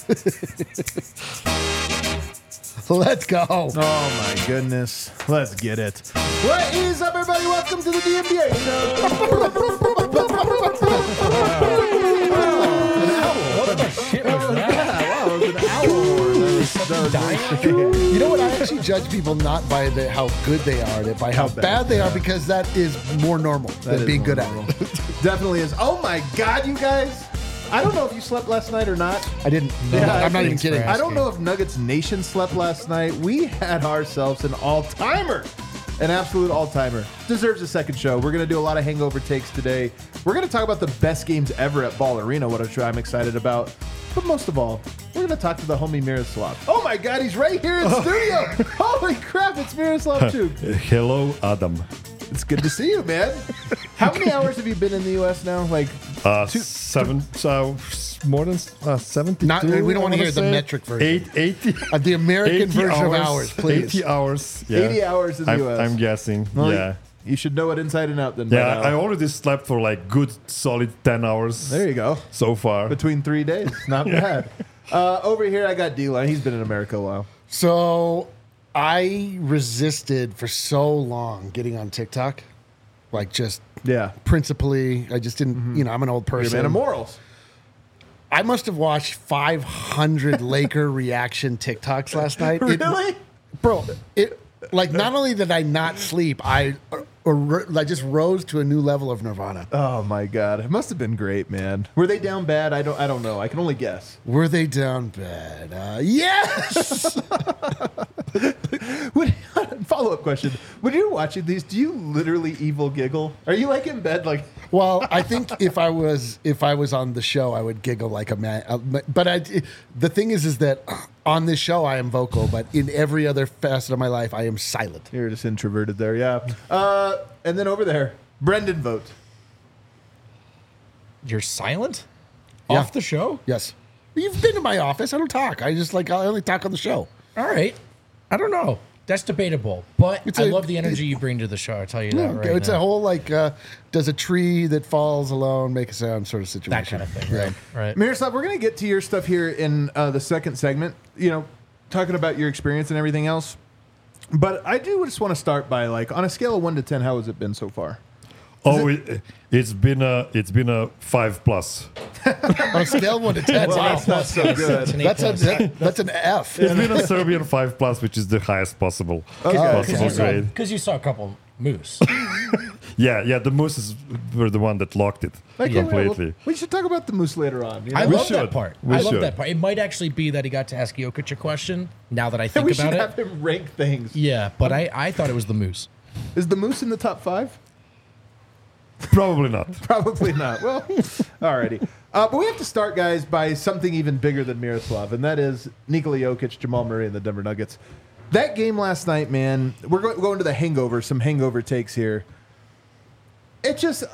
Let's go. Oh my goodness. Let's get it. What is up, everybody? Welcome to the DMBA show. What the shit was that? Wow, it was an owl. You know what? I actually judge people not by how good they are, but by how bad they are, because that is more normal than being good at it. Definitely is. Oh my God, you guys. I don't know if you slept last night or not. I didn't. Yeah, I'm not even kidding. I don't know if Nuggets Nation slept last night. We had ourselves an all-timer. An absolute all-timer. Deserves a second show. We're going to do a lot of hangover takes today. We're going to talk about the best games ever at Ball Arena, what I'm excited about. But most of all, we're going to talk to the homie Miroslav. Oh my God, he's right here in studio. Holy crap, it's Miroslav Chuk. Hello, Adam. It's good to see you, man. How many hours have you been in the U.S. now? Like 7, more than 70. We don't want to hear the metric version. 80. The American 80 version of hours, please. 80 hours. Yeah. 80 hours in the U.S. I'm guessing. Well, yeah. You should know it inside and out then. by Yeah, now. I already slept for like good solid 10 hours. There you go. So far. Between 3 days. Not bad. Over here, I got D-Line. He's been in America a while. So I resisted for so long getting on TikTok. Like just principally, I just didn't, I'm an old person. You're a man of morals. I must have watched 500 Laker reaction TikToks last night. Really? Not only did I not sleep, I just rose to a new level of nirvana. Oh my God. It must have been great, man. Were they down bad? I don't know. I can only guess. Were they down bad? Yes! Follow-up question. When you're watching these, do you literally evil giggle? Are you like in bed like... Well, I think if I was on the show, I would giggle like a man. But the thing is that on this show I am vocal, but in every other facet of my life I am silent. You're just introverted there, yeah. And then over there, Brendan Vogt. You're silent? Yeah. Off the show? Yes. You've been to my office. I don't talk. I only talk on the show. All right. I don't know. That's debatable, but I love the energy you bring to the show. I'll tell you that right It's now. a whole does a tree that falls alone make a sound sort of situation. That kind of thing, right? Miroslav, we're going to get to your stuff here in the second segment, talking about your experience and everything else. But I do just want to start by, on a scale of 1 to 10, how has it been so far? It's been a 5+. On a scale of 1 to 10. Wow, that's so good. That's an F. It's been a Serbian 5+, which is the highest possible grade. Because you saw a couple moose. Yeah, the mooses were the one that locked it completely. We should talk about the moose later on. I love should. that part. We I love should. that part. It might actually be that he got to ask Jokic a question, now that I think we about should it. have him rank things. Yeah, but I thought it was the moose. Is the moose in the top 5? Probably not. Probably not. Well, alrighty. But we have to start, guys, by something even bigger than Miroslav, and that is Nikola Jokic, Jamal Murray, and the Denver Nuggets. That game last night, man, we're going to the hangover, some hangover takes here. It just...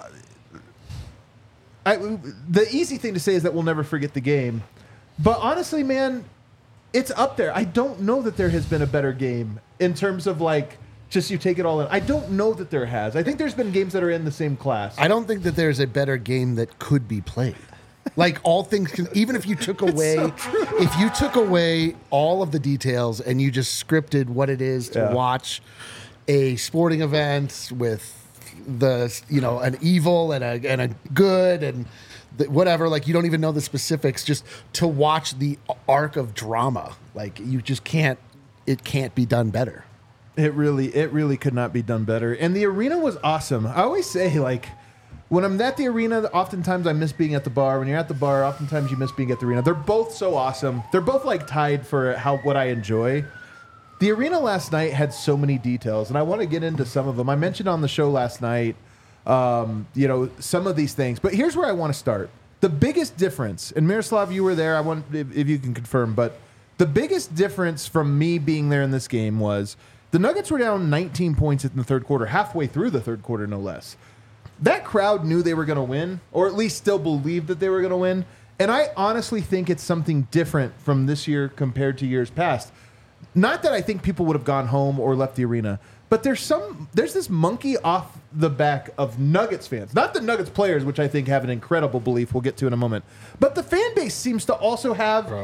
the easy thing to say is that we'll never forget the game. But honestly, man, it's up there. I don't know that there has been a better game in terms of, just you take it all in. I don't know that there has. I think there's been games that are in the same class. I don't think that there's a better game that could be played. All things, even if you took away, all of the details and you just scripted what it is to watch a sporting event with an evil and a good and whatever, you don't even know the specifics, just to watch the arc of drama. You just can't. It can't be done better. It really could not be done better. And the arena was awesome. I always say, when I'm at the arena, oftentimes I miss being at the bar. When you're at the bar, oftentimes you miss being at the arena. They're both so awesome. They're both tied for what I enjoy. The arena last night had so many details, and I want to get into some of them. I mentioned on the show last night, some of these things. But here's where I want to start. The biggest difference, and Miroslav, you were there. I want if you can confirm, but the biggest difference from me being there in this game was the Nuggets were down 19 points in the third quarter, halfway through the third quarter, no less. That crowd knew they were going to win, or at least still believed that they were going to win. And I honestly think it's something different from this year compared to years past. Not that I think people would have gone home or left the arena, but there's this monkey off the back of Nuggets fans. Not the Nuggets players, which I think have an incredible belief we'll get to in a moment. But the fan base seems to also have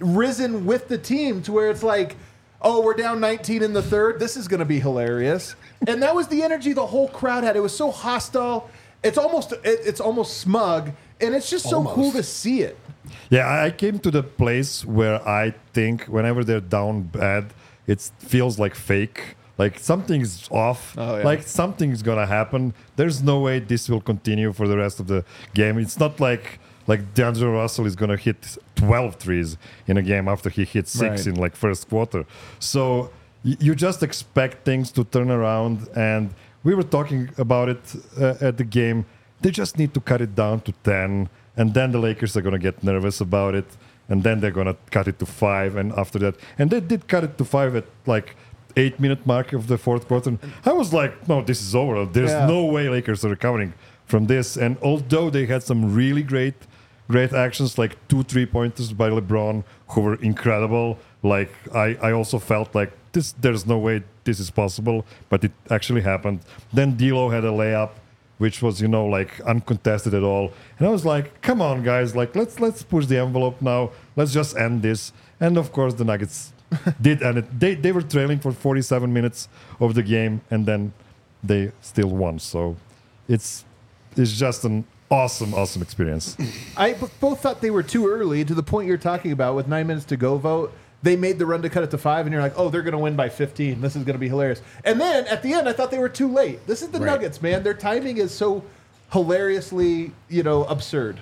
risen with the team to where it's like, oh, we're down 19 in the third. This is going to be hilarious. And that was the energy the whole crowd had. It was so hostile. It's almost smug, and it's just so cool to see it. Yeah, I came to the place where I think whenever they're down bad, it feels like fake. Like something's off. Oh, yeah. Like something's gonna happen. There's no way this will continue for the rest of the game. It's not like D'Angelo Russell is gonna hit 12 threes in a game after he hit 6 in like first quarter. So you just expect things to turn around, and we were talking about it at the game. They just need to cut it down to 10, and then the Lakers are gonna get nervous about it, and then they're gonna cut it to 5, and after that, and they did cut it to 5 at like 8-minute mark of the fourth quarter. I was like, no, this is over. There's no way Lakers are recovering from this. And although they had some really great actions, like 2 3-pointers by LeBron, who were incredible, like I also felt like there's no way this is possible, but it actually happened. Then D'Lo had a layup, which was, like uncontested at all. And I was like, come on, guys, like let's push the envelope now. Let's just end this. And of course, the Nuggets did end it. They were trailing for 47 minutes of the game, and then they still won. So it's just an awesome experience. I both thought they were too early, to the point you're talking about with 9 minutes to go vote. They made the run to cut it to 5, and you're like, oh, they're going to win by 15. This is going to be hilarious. And then at the end, I thought they were too late. This is the Nuggets, man. Their timing is so hilariously, absurd.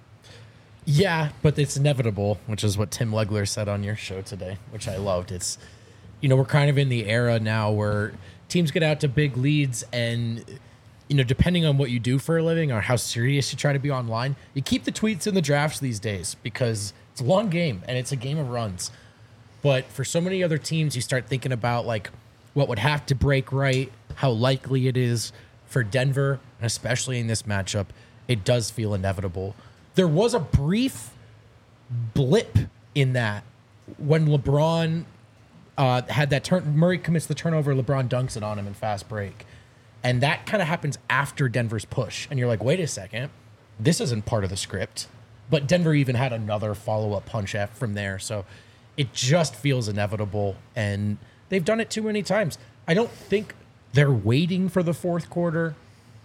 Yeah, but it's inevitable, which is what Tim Legler said on your show today, which I loved. It's, we're kind of in the era now where teams get out to big leads, and, depending on what you do for a living or how serious you try to be online, you keep the tweets in the drafts these days because it's a long game and it's a game of runs. But for so many other teams, you start thinking about like what would have to break right, how likely it is for Denver, and especially in this matchup, it does feel inevitable. There was a brief blip in that when LeBron had that turn. Murray commits the turnover, LeBron dunks it on him in fast break. And that kind of happens after Denver's push. And you're like, wait a second, this isn't part of the script. But Denver even had another follow-up punch from there. So it just feels inevitable. And they've done it too many times. I don't think they're waiting for the fourth quarter.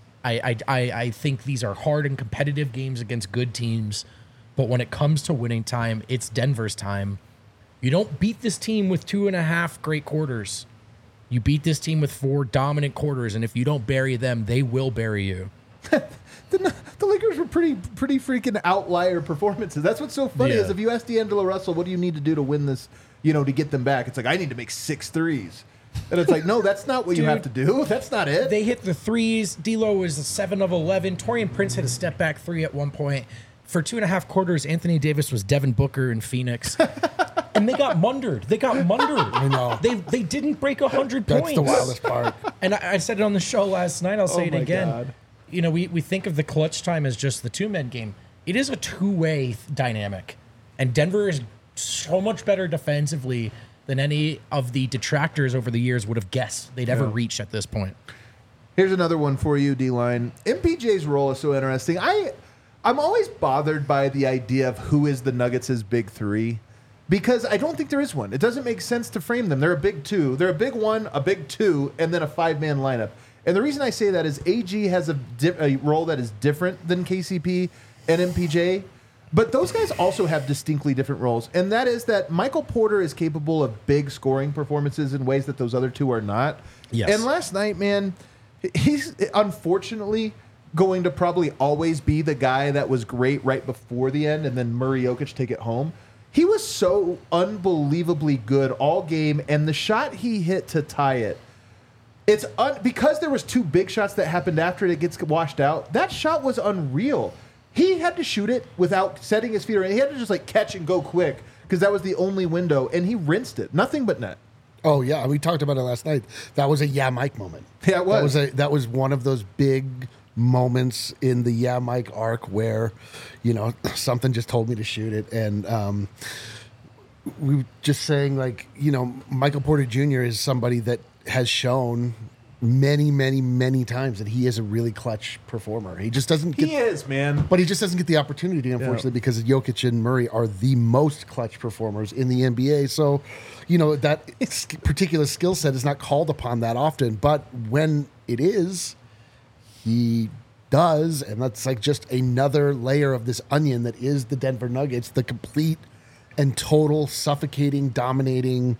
I think these are hard and competitive games against good teams. But when it comes to winning time, it's Denver's time. You don't beat this team with 2.5 great quarters. You beat this team with 4 dominant quarters, and if you don't bury them, they will bury you. The Lakers were pretty freaking outlier performances. That's what's so funny is if you ask D'Angelo Russell, what do you need to do to win this, to get them back? It's like, I need to make 6 threes. And it's like, no, that's not what you have to do. That's not it. They hit the threes. D'Lo was 7 of 11. Torian Prince hit a step back 3 at one point. For 2.5 quarters, Anthony Davis was Devin Booker in Phoenix. And they got mundered. I know. They didn't break 100 points. That's the wildest part. And I said it on the show last night. I'll say it again. God. We think of the clutch time as just the 2-man game. It is a 2-way dynamic. And Denver is so much better defensively than any of the detractors over the years would have guessed they'd ever reach at this point. Here's another one for you, D-Line. MPJ's role is so interesting. I'm always bothered by the idea of who is the Nuggets' big 3. Because I don't think there is one. It doesn't make sense to frame them. They're a big 2. They're a big 1, a big 2, and then a 5-man lineup. And the reason I say that is AG has a role that is different than KCP and MPJ. But those guys also have distinctly different roles. And that is that Michael Porter is capable of big scoring performances in ways that those other 2 are not. Yes. And last night, man, he's unfortunately going to probably always be the guy that was great right before the end and then Murray Jokic take it home. He was so unbelievably good all game, and the shot he hit to tie it, because there was 2 big shots that happened after it gets washed out. That shot was unreal. He had to shoot it without setting his feet around. He had to just catch and go quick because that was the only window, and he rinsed it. Nothing but net. Oh yeah, we talked about it last night. That was a Mike moment. Yeah, it was. That was one of those big moments in the Mike arc where, something just told me to shoot it, and we were just saying Michael Porter Jr. is somebody that has shown many, many, many times that he is a really clutch performer. He just doesn't get, He is, man. but he just doesn't get the opportunity, unfortunately, because Jokic and Murray are the most clutch performers in the NBA. So, that particular skill set is not called upon that often. But when it is, he does, and that's like just another layer of this onion that is the Denver Nuggets, the complete and total suffocating, dominating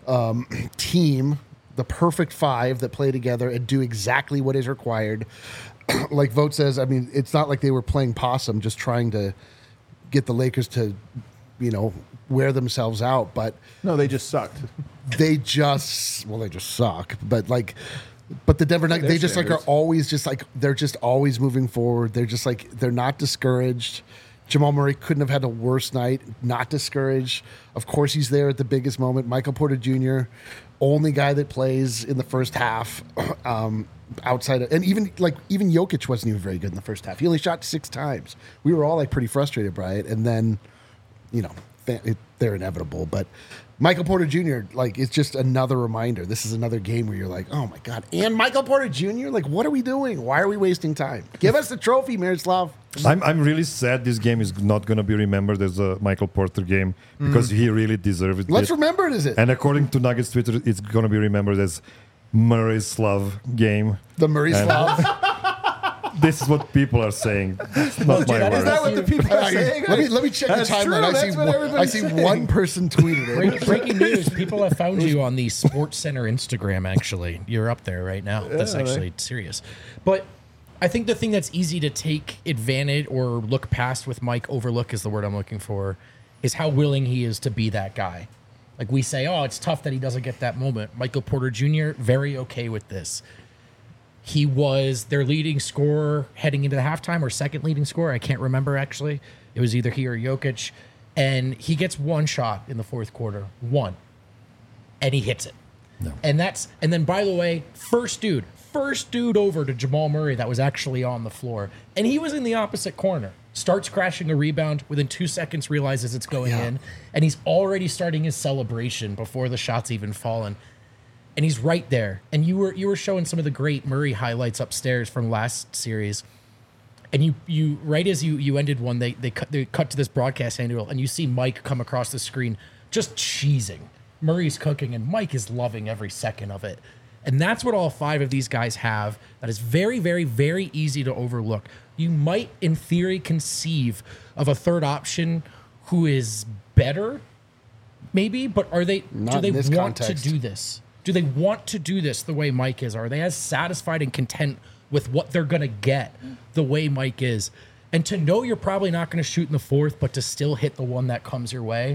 team, the perfect five that play together and do exactly what is required. Like Vogt says, I mean, it's not like they were playing possum, just trying to get the Lakers to, wear themselves out. But No, they just sucked. they just suck. But the Denver Nuggets, they just standards. are always just they're just always moving forward. They're just they're not discouraged. Jamal Murray couldn't have had a worse night, not discouraged. Of course, he's there at the biggest moment. Michael Porter Jr., only guy that plays in the first half, outside of, and even Jokic wasn't even very good in the first half. He only shot 6 times. We were all pretty frustrated by it, and then, they're inevitable. But Michael Porter Jr., it's just another reminder. This is another game where you're like, oh my God. And Michael Porter Jr., what are we doing? Why are we wasting time? Give us the trophy, Miroslav. I'm really sad this game is not going to be remembered as a Michael Porter game because he really deserved it. Let's remember it as it. And according to Nuggets Twitter, it's going to be remembered as Murray's Slav game. The Murray And- Slav. This is what people are saying. It's not my Is that words. what the people are saying? Let me check the That's timeline. true. I That's what see everybody's saying. one person tweeted it. Breaking news: people have found you on the Sports Center Instagram. Actually, you're up there right now. That's actually serious. But I think the thing that's easy to take advantage or look past with Mike, overlook is the word I'm looking for, is how willing he is to be that guy. Like we say, oh, it's tough that he doesn't get that moment. Michael Porter Jr., very okay with this. He was their leading scorer heading into the halftime, or second leading scorer. I can't remember, actually. It was either he or Jokic. And he gets one shot in the fourth quarter. One. And he hits it. No. And then, by the way, first dude over to Jamal Murray that was actually on the floor. And he was in the opposite corner. Starts crashing a rebound. Within 2 seconds, realizes it's going in. And he's already starting his celebration before the shot's even fallen. And he's right there. And you were showing some of the great Murray highlights upstairs from last series. And you right as you ended one, they cut to this broadcast angle, and you see Mike come across the screen just cheesing. Murray's cooking, and Mike is loving every second of it. And that's what all 5 of these guys have. That is very, very, very easy to overlook. You might, in theory, conceive of a third option who is better, maybe, but do they Not in this want context. to do this? Do they want to do this the way Mike is? Are they as satisfied and content with what they're going to get the way Mike is? And to know you're probably not going to shoot in the fourth, but to still hit the one that comes your way,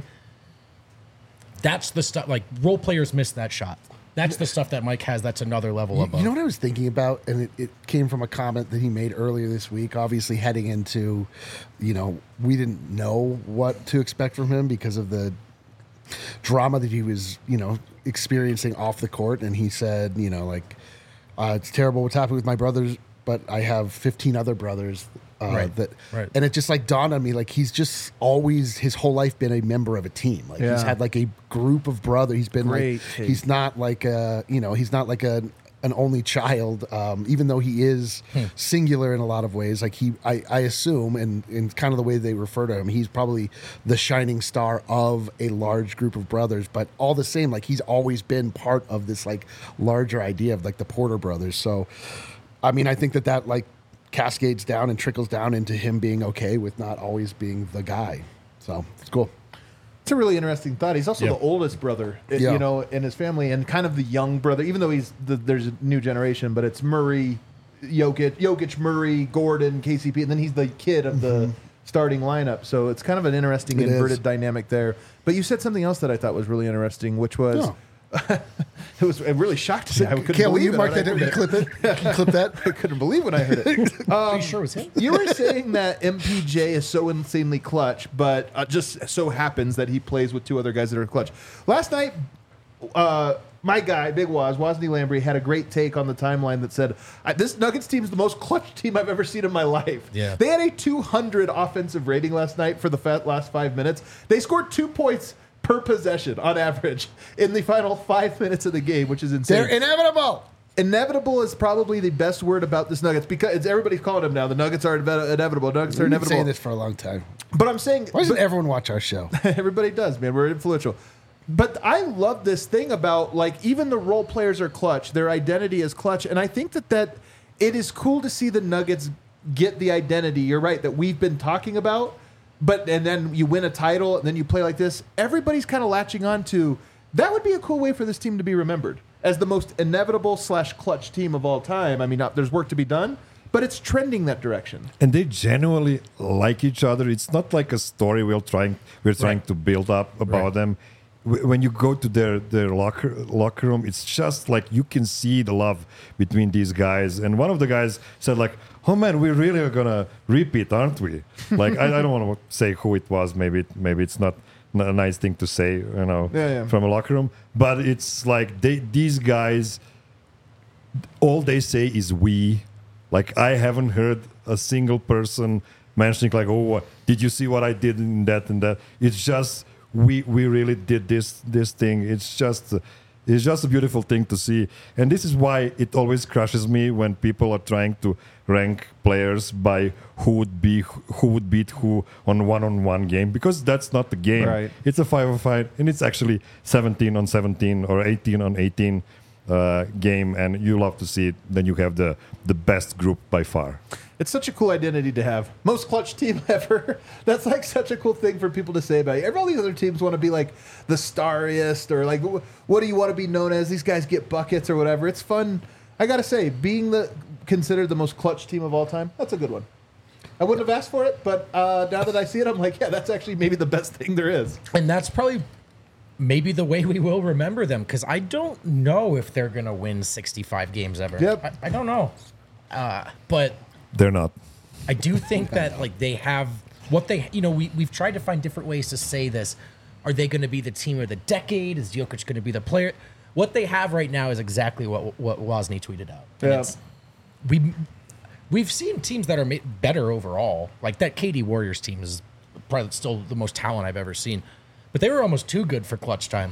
that's the stuff. Like, role players miss that shot. That's the stuff that Mike has. That's another level above. You know what I was thinking about? And it came from a comment that he made earlier this week, obviously heading into, we didn't know what to expect from him because of the drama that he was, experiencing off the court. And he said, it's terrible what's happening with my brothers, but I have 15 other brothers. Right. And it just dawned on me, he's just always his whole life been a member of a team. He's had a group of brothers. He's been Great take. he's not like he's not like an only child, even though he is singular in a lot of ways. I assume, and kind of the way they refer to him, he's probably the shining star of a large group of brothers. But all the same, he's always been part of this larger idea of the Porter brothers. So, I mean, I think that cascades down and trickles down into him being okay with not always being the guy. So it's cool. It's a really interesting thought. He's also the oldest brother, in his family, and kind of the young brother, even though there's a new generation, but it's Murray, Jokic, Murray, Gordon, KCP, and then he's the kid of the starting lineup. So it's kind of an interesting inverted dynamic there. But you said something else that I thought was really interesting, which was... It really shocked me. I couldn't Will believe you it mark when I that down? heard Clip it. Can you clip that? I couldn't believe when I heard it. Are you sure it was him? You were saying that MPJ is so insanely clutch, but just so happens that he plays with 2 other guys that are clutch. Last night, my guy, Big Wosny Lambre, had a great take on the timeline that said, this Nuggets team is the most clutch team I've ever seen in my life. Yeah. They had a 200 offensive rating last night for the last 5 minutes. They scored 2 points per possession on average in the final 5 minutes of the game, which is insane. They're inevitable. inevitable is probably the best word about this Nuggets because everybody's calling them now. The Nuggets are inevitable. Nuggets are We've been inevitable. saying this for a long time. But I'm saying, Why doesn't everyone watch our show? everybody does, man. We're influential. But I love this thing about, like, even the role players are clutch. Their identity is clutch. And I think that it is cool to see the Nuggets get the identity, you're right, that we've been talking about. And then you win a title, and then you play like this. Everybody's kind of latching on to, that would be a cool way for this team to be remembered as the most inevitable / clutch team of all time. I mean, there's work to be done, but it's trending that direction. And they genuinely like each other. It's not like a story we're trying to build up about them. When you go to their locker room, it's just like you can see the love between these guys. And one of the guys said, like, "Oh man, we really are gonna repeat, aren't we?" Like, I don't want to say who it was. Maybe it's not a nice thing to say, from a locker room. But it's like these guys, all they say is "we." Like, I haven't heard a single person mentioning like, "Oh, did you see what I did in that and that?" It's just we really did this thing. It's just a beautiful thing to see, and this is why it always crushes me when people are trying to rank players by who would beat who on one-on-one game, because that's not the game. Right. It's a 5-on-5, and it's actually 17-on-17 or 18-on-18 game, and you love to see it. Then you have the best group by far. It's such a cool identity to have. Most clutch team ever. That's like such a cool thing for people to say about you. All these other teams want to be like the starriest, or like, what do you want to be known as? These guys get buckets or whatever. It's fun. I got to say, being considered the most clutch team of all time, that's a good one. I wouldn't have asked for it, but now that I see it, I'm like, yeah, that's actually maybe the best thing there is. And that's probably maybe the way we will remember them, because I don't know if they're going to win 65 games ever. Yep. I don't know. But They're not. I do think that like they have what they, we've tried to find different ways to say this. Are they going to be the team of the decade? Is Jokic going to be the player? What they have right now is exactly what Wozni tweeted out. And Yeah. We've seen teams that are better overall. Like that KD Warriors team is probably still the most talent I've ever seen, but they were almost too good for clutch time.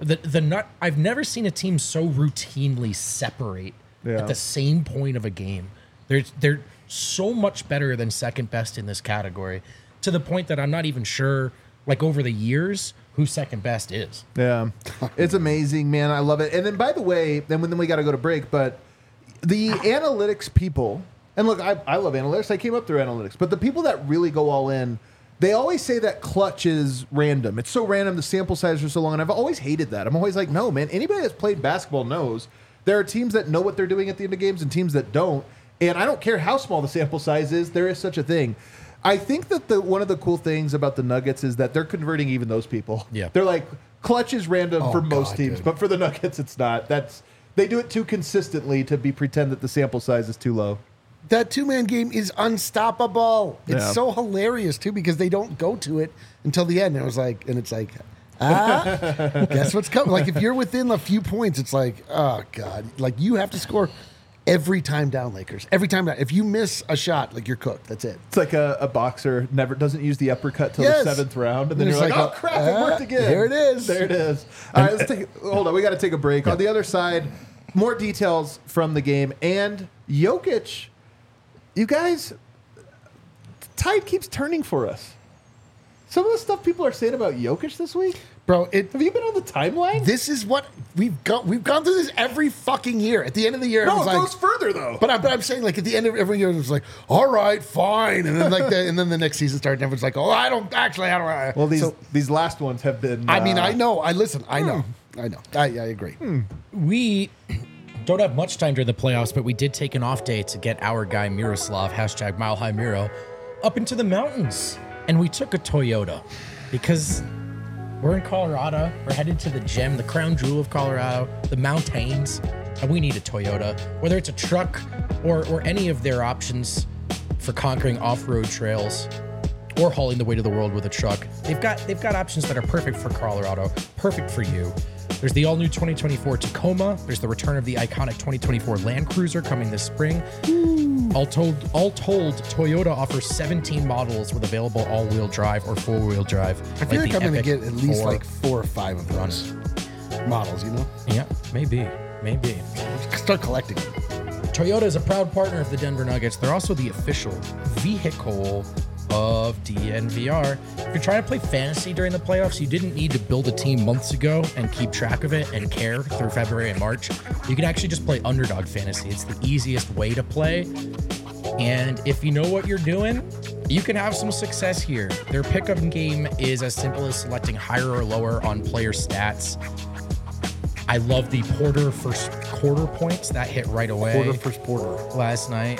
I've never seen a team so routinely separate at the same point of a game. They're so much better than second best in this category, to the point that I'm not even sure, like over the years, who second best is. Yeah, it's amazing, man. I love it. And then, by the way, then we got to go to break, but the analytics people, and look, I love analytics. I came up through analytics, but the people that really go all in, they always say that clutch is random. It's so random. The sample size are so long, and I've always hated that. I'm always like, no, man. Anybody that's played basketball knows there are teams that know what they're doing at the end of games and teams that don't. And I don't care how small the sample size is, there is such a thing. I think that one of the cool things about the Nuggets is that they're converting even those people. Yeah. They're like, clutch is random for most teams, dude. but for the Nuggets, it's not. They do it too consistently to pretend that the sample size is too low. That two-man game is unstoppable. It's Yeah. so hilarious too, because they don't go to it until the end. And it's like, guess what's coming? Like, if you're within a few points, it's like, oh god, like you have to score every time down, Lakers. Every time down. If you miss a shot, like you're cooked. That's it. It's like a boxer never doesn't use the uppercut till Yes. the 7th round, and then And you're it's like, like, oh crap, it worked again. there it is. There it is. All right, hold on. We got to take a break. On the other side, more details from the game and Jokic. You guys, the tide keeps turning for us. Some of the stuff people are saying about Jokic this week. Bro, Have you been on the timeline? this is what we've gone through this every fucking year. At the end of the year, no, it everyone's goes further though. But I'm saying, like, at the end of every year, it's like, all right, fine, and then and then the next season starts, and everyone's like, oh, I don't. Well, these last ones have been. I mean, I know. I know. I agree. We don't have much time during the playoffs, but we did take an off day to get our guy Miroslav, #Mile High Miro, up into the mountains. And we took a Toyota because we're in Colorado. We're headed to the gem, the crown jewel of Colorado, the mountains, and we need a Toyota. Whether it's a truck or any of their options for conquering off-road trails or hauling the weight of the world with a truck, they've got options that are perfect for Colorado, perfect for you. There's the all-new 2024 Tacoma. There's the return of the iconic 2024 Land Cruiser coming this spring. All told, Toyota offers 17 models with available all-wheel drive or four-wheel drive. I feel like I'm going to Epic get at least 4. like 4 or 5 of those models, you know? Yeah, maybe. Maybe. Start collecting them. Toyota is a proud partner of the Denver Nuggets. They're also the official vehicle of DNVR. If you're trying to play fantasy during the playoffs, you didn't need to build a team months ago and keep track of it and care through February and March. You can actually just play underdog fantasy. It's the easiest way to play. And if you know what you're doing, you can have some success here. Their pickup game is as simple as selecting higher or lower on player stats. I love the Porter first quarter points that hit right away. First quarter. Last night.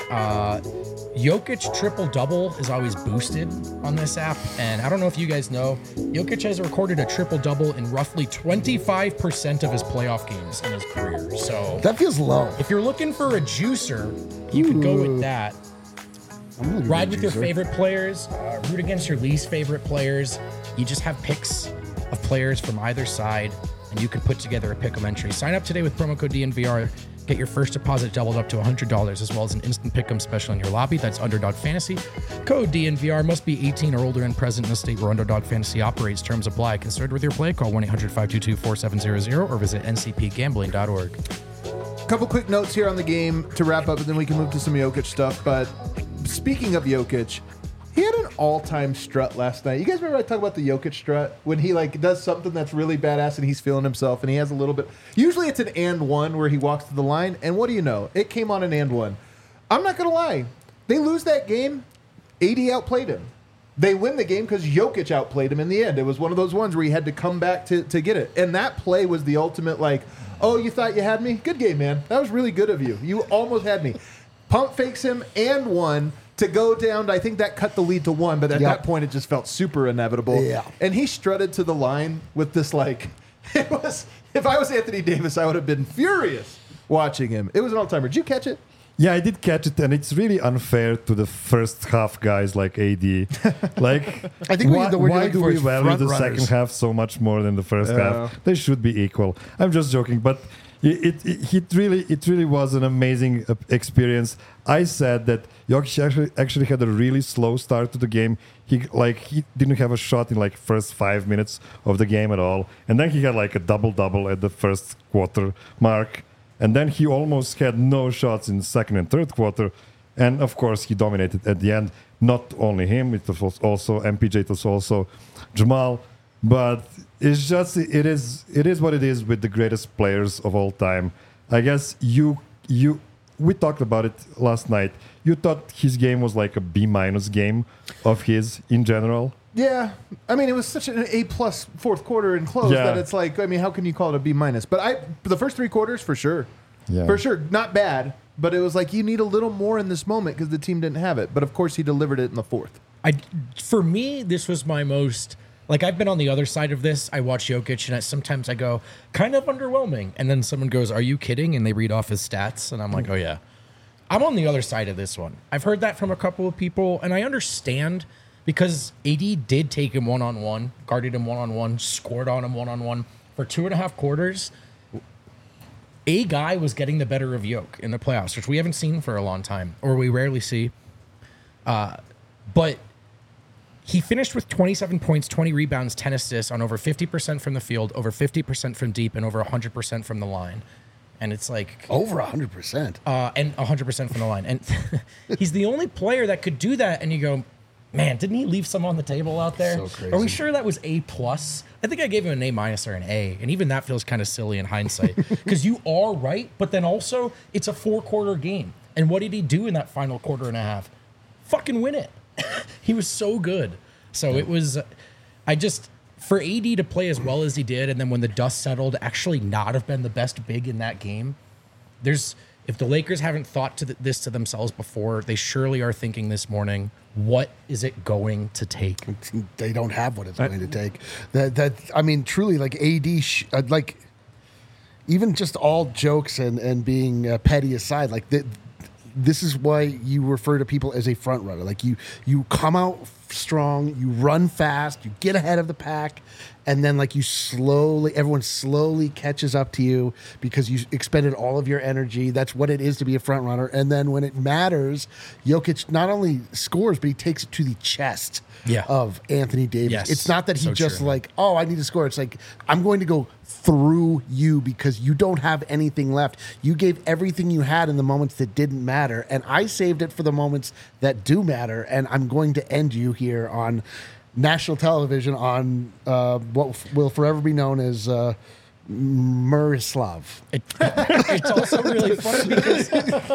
Jokic triple-double is always boosted on this app. And I don't know if you guys know, Jokic has recorded a triple-double in roughly 25% of his playoff games in his career. So That feels low. if you're looking for a juicer, you could go with that. I'm looking Ride at with your juicer. favorite players, root against your least favorite players. You just have picks of players from either side, and you can put together a pick'em entry. Sign up today with promo code DNVR. Get your first deposit doubled up to $100, as well as an instant pick'em special in your lobby. That's Underdog Fantasy. Code DNVR. Must be 18 or older and present in the state where Underdog Fantasy operates. Terms apply. Concerned with your play? Call 1-800-522-4700 or visit ncpgambling.org. Couple quick notes here on the game to wrap up, and then we can move to some Jokic stuff. But speaking of Jokic, he had an all-time strut last night. You guys remember I talk about the Jokic strut? When he does something that's really badass and he's feeling himself and he has a little bit... Usually it's an and one where he walks to the line, and what do you know? It came on an and one. I'm not going to lie. They lose that game, AD outplayed him. They win the game because Jokic outplayed him in the end. It was one of those ones where he had to come back to get it. And that play was the ultimate, oh, you thought you had me? Good game, man. That was really good of you. You almost had me. Pump fakes him and one to go down. I think that cut the lead to one, but at that point it just felt super inevitable. Yeah. And he strutted to the line with this it was, if I was Anthony Davis, I would have been furious watching him. It was an all-timer. Did you catch it? Yeah, I did catch it, and it's really unfair to the first half guys like AD. I think why the word you're do looking for we is value front the runners. second half so much more than the first half? They should be equal. I'm just joking, but it really was an amazing experience. I said that Jokic actually had a really slow start to the game. He didn't have a shot in first 5 minutes of the game at all, and then he had a double at the first quarter mark, and then he almost had no shots in second and third quarter, and of course he dominated at the end. Not only him, it was also MPJ, it was also Jamal, but it's just it is what it is with the greatest players of all time. I guess we talked about it last night. You thought his game was like a B- game of his in general. Yeah, I mean, it was such an A+ fourth quarter and close Yeah. that it's how can you call it a B-? But the first three quarters, for sure. Yeah. For sure, not bad, but it was you need a little more in this moment because the team didn't have it. But of course, he delivered it in the fourth. For me, this was my most... I've been on the other side of this. I watch Jokic, and sometimes I go, kind of underwhelming. And then someone goes, are you kidding? And they read off his stats. And I'm like, oh, yeah. I'm on the other side of this one. I've heard that from a couple of people, and I understand because AD did take him one-on-one, guarded him one-on-one, scored on him one-on-one. For 2.5 quarters, a guy was getting the better of Jokic in the playoffs, which we haven't seen for a long time, or we rarely see. But... he finished with 27 points, 20 rebounds, 10 assists on over 50% from the field, over 50% from deep, and over 100% from the line. And it's over 100%. And 100% from the line. And he's the only player that could do that. And you go, man, didn't he leave some on the table out there? So crazy. Are we sure that was A+? I think I gave him an A- or an A. And even that feels kind of silly in hindsight. Because you are right, but then also it's a 4-quarter game. And what did he do in that final quarter and a half? Fucking win it. He was so good. So it was, for AD to play as well as he did, and then when the dust settled, actually not have been the best big in that game. If the Lakers haven't thought this to themselves before, they surely are thinking this morning, what is it going to take? They don't have what it's going to take. Truly, AD, even just all jokes and being petty aside, this is why you refer to people as a front runner. You come out strong, you run fast, you get ahead of the pack, and then like everyone slowly catches up to you because you expended all of your energy. That's what it is to be a front runner. And then when it matters, Jokic not only scores, but he takes it to the chest of Anthony Davis. Yes. It's not that he So just true. like, oh, I need to score. It's like, I'm going to go through you because you don't have anything left. You gave everything you had in the moments that didn't matter. And I saved it for the moments that do matter. And I'm going to end you here on national television on what will forever be known as Murislav. It's also really funny because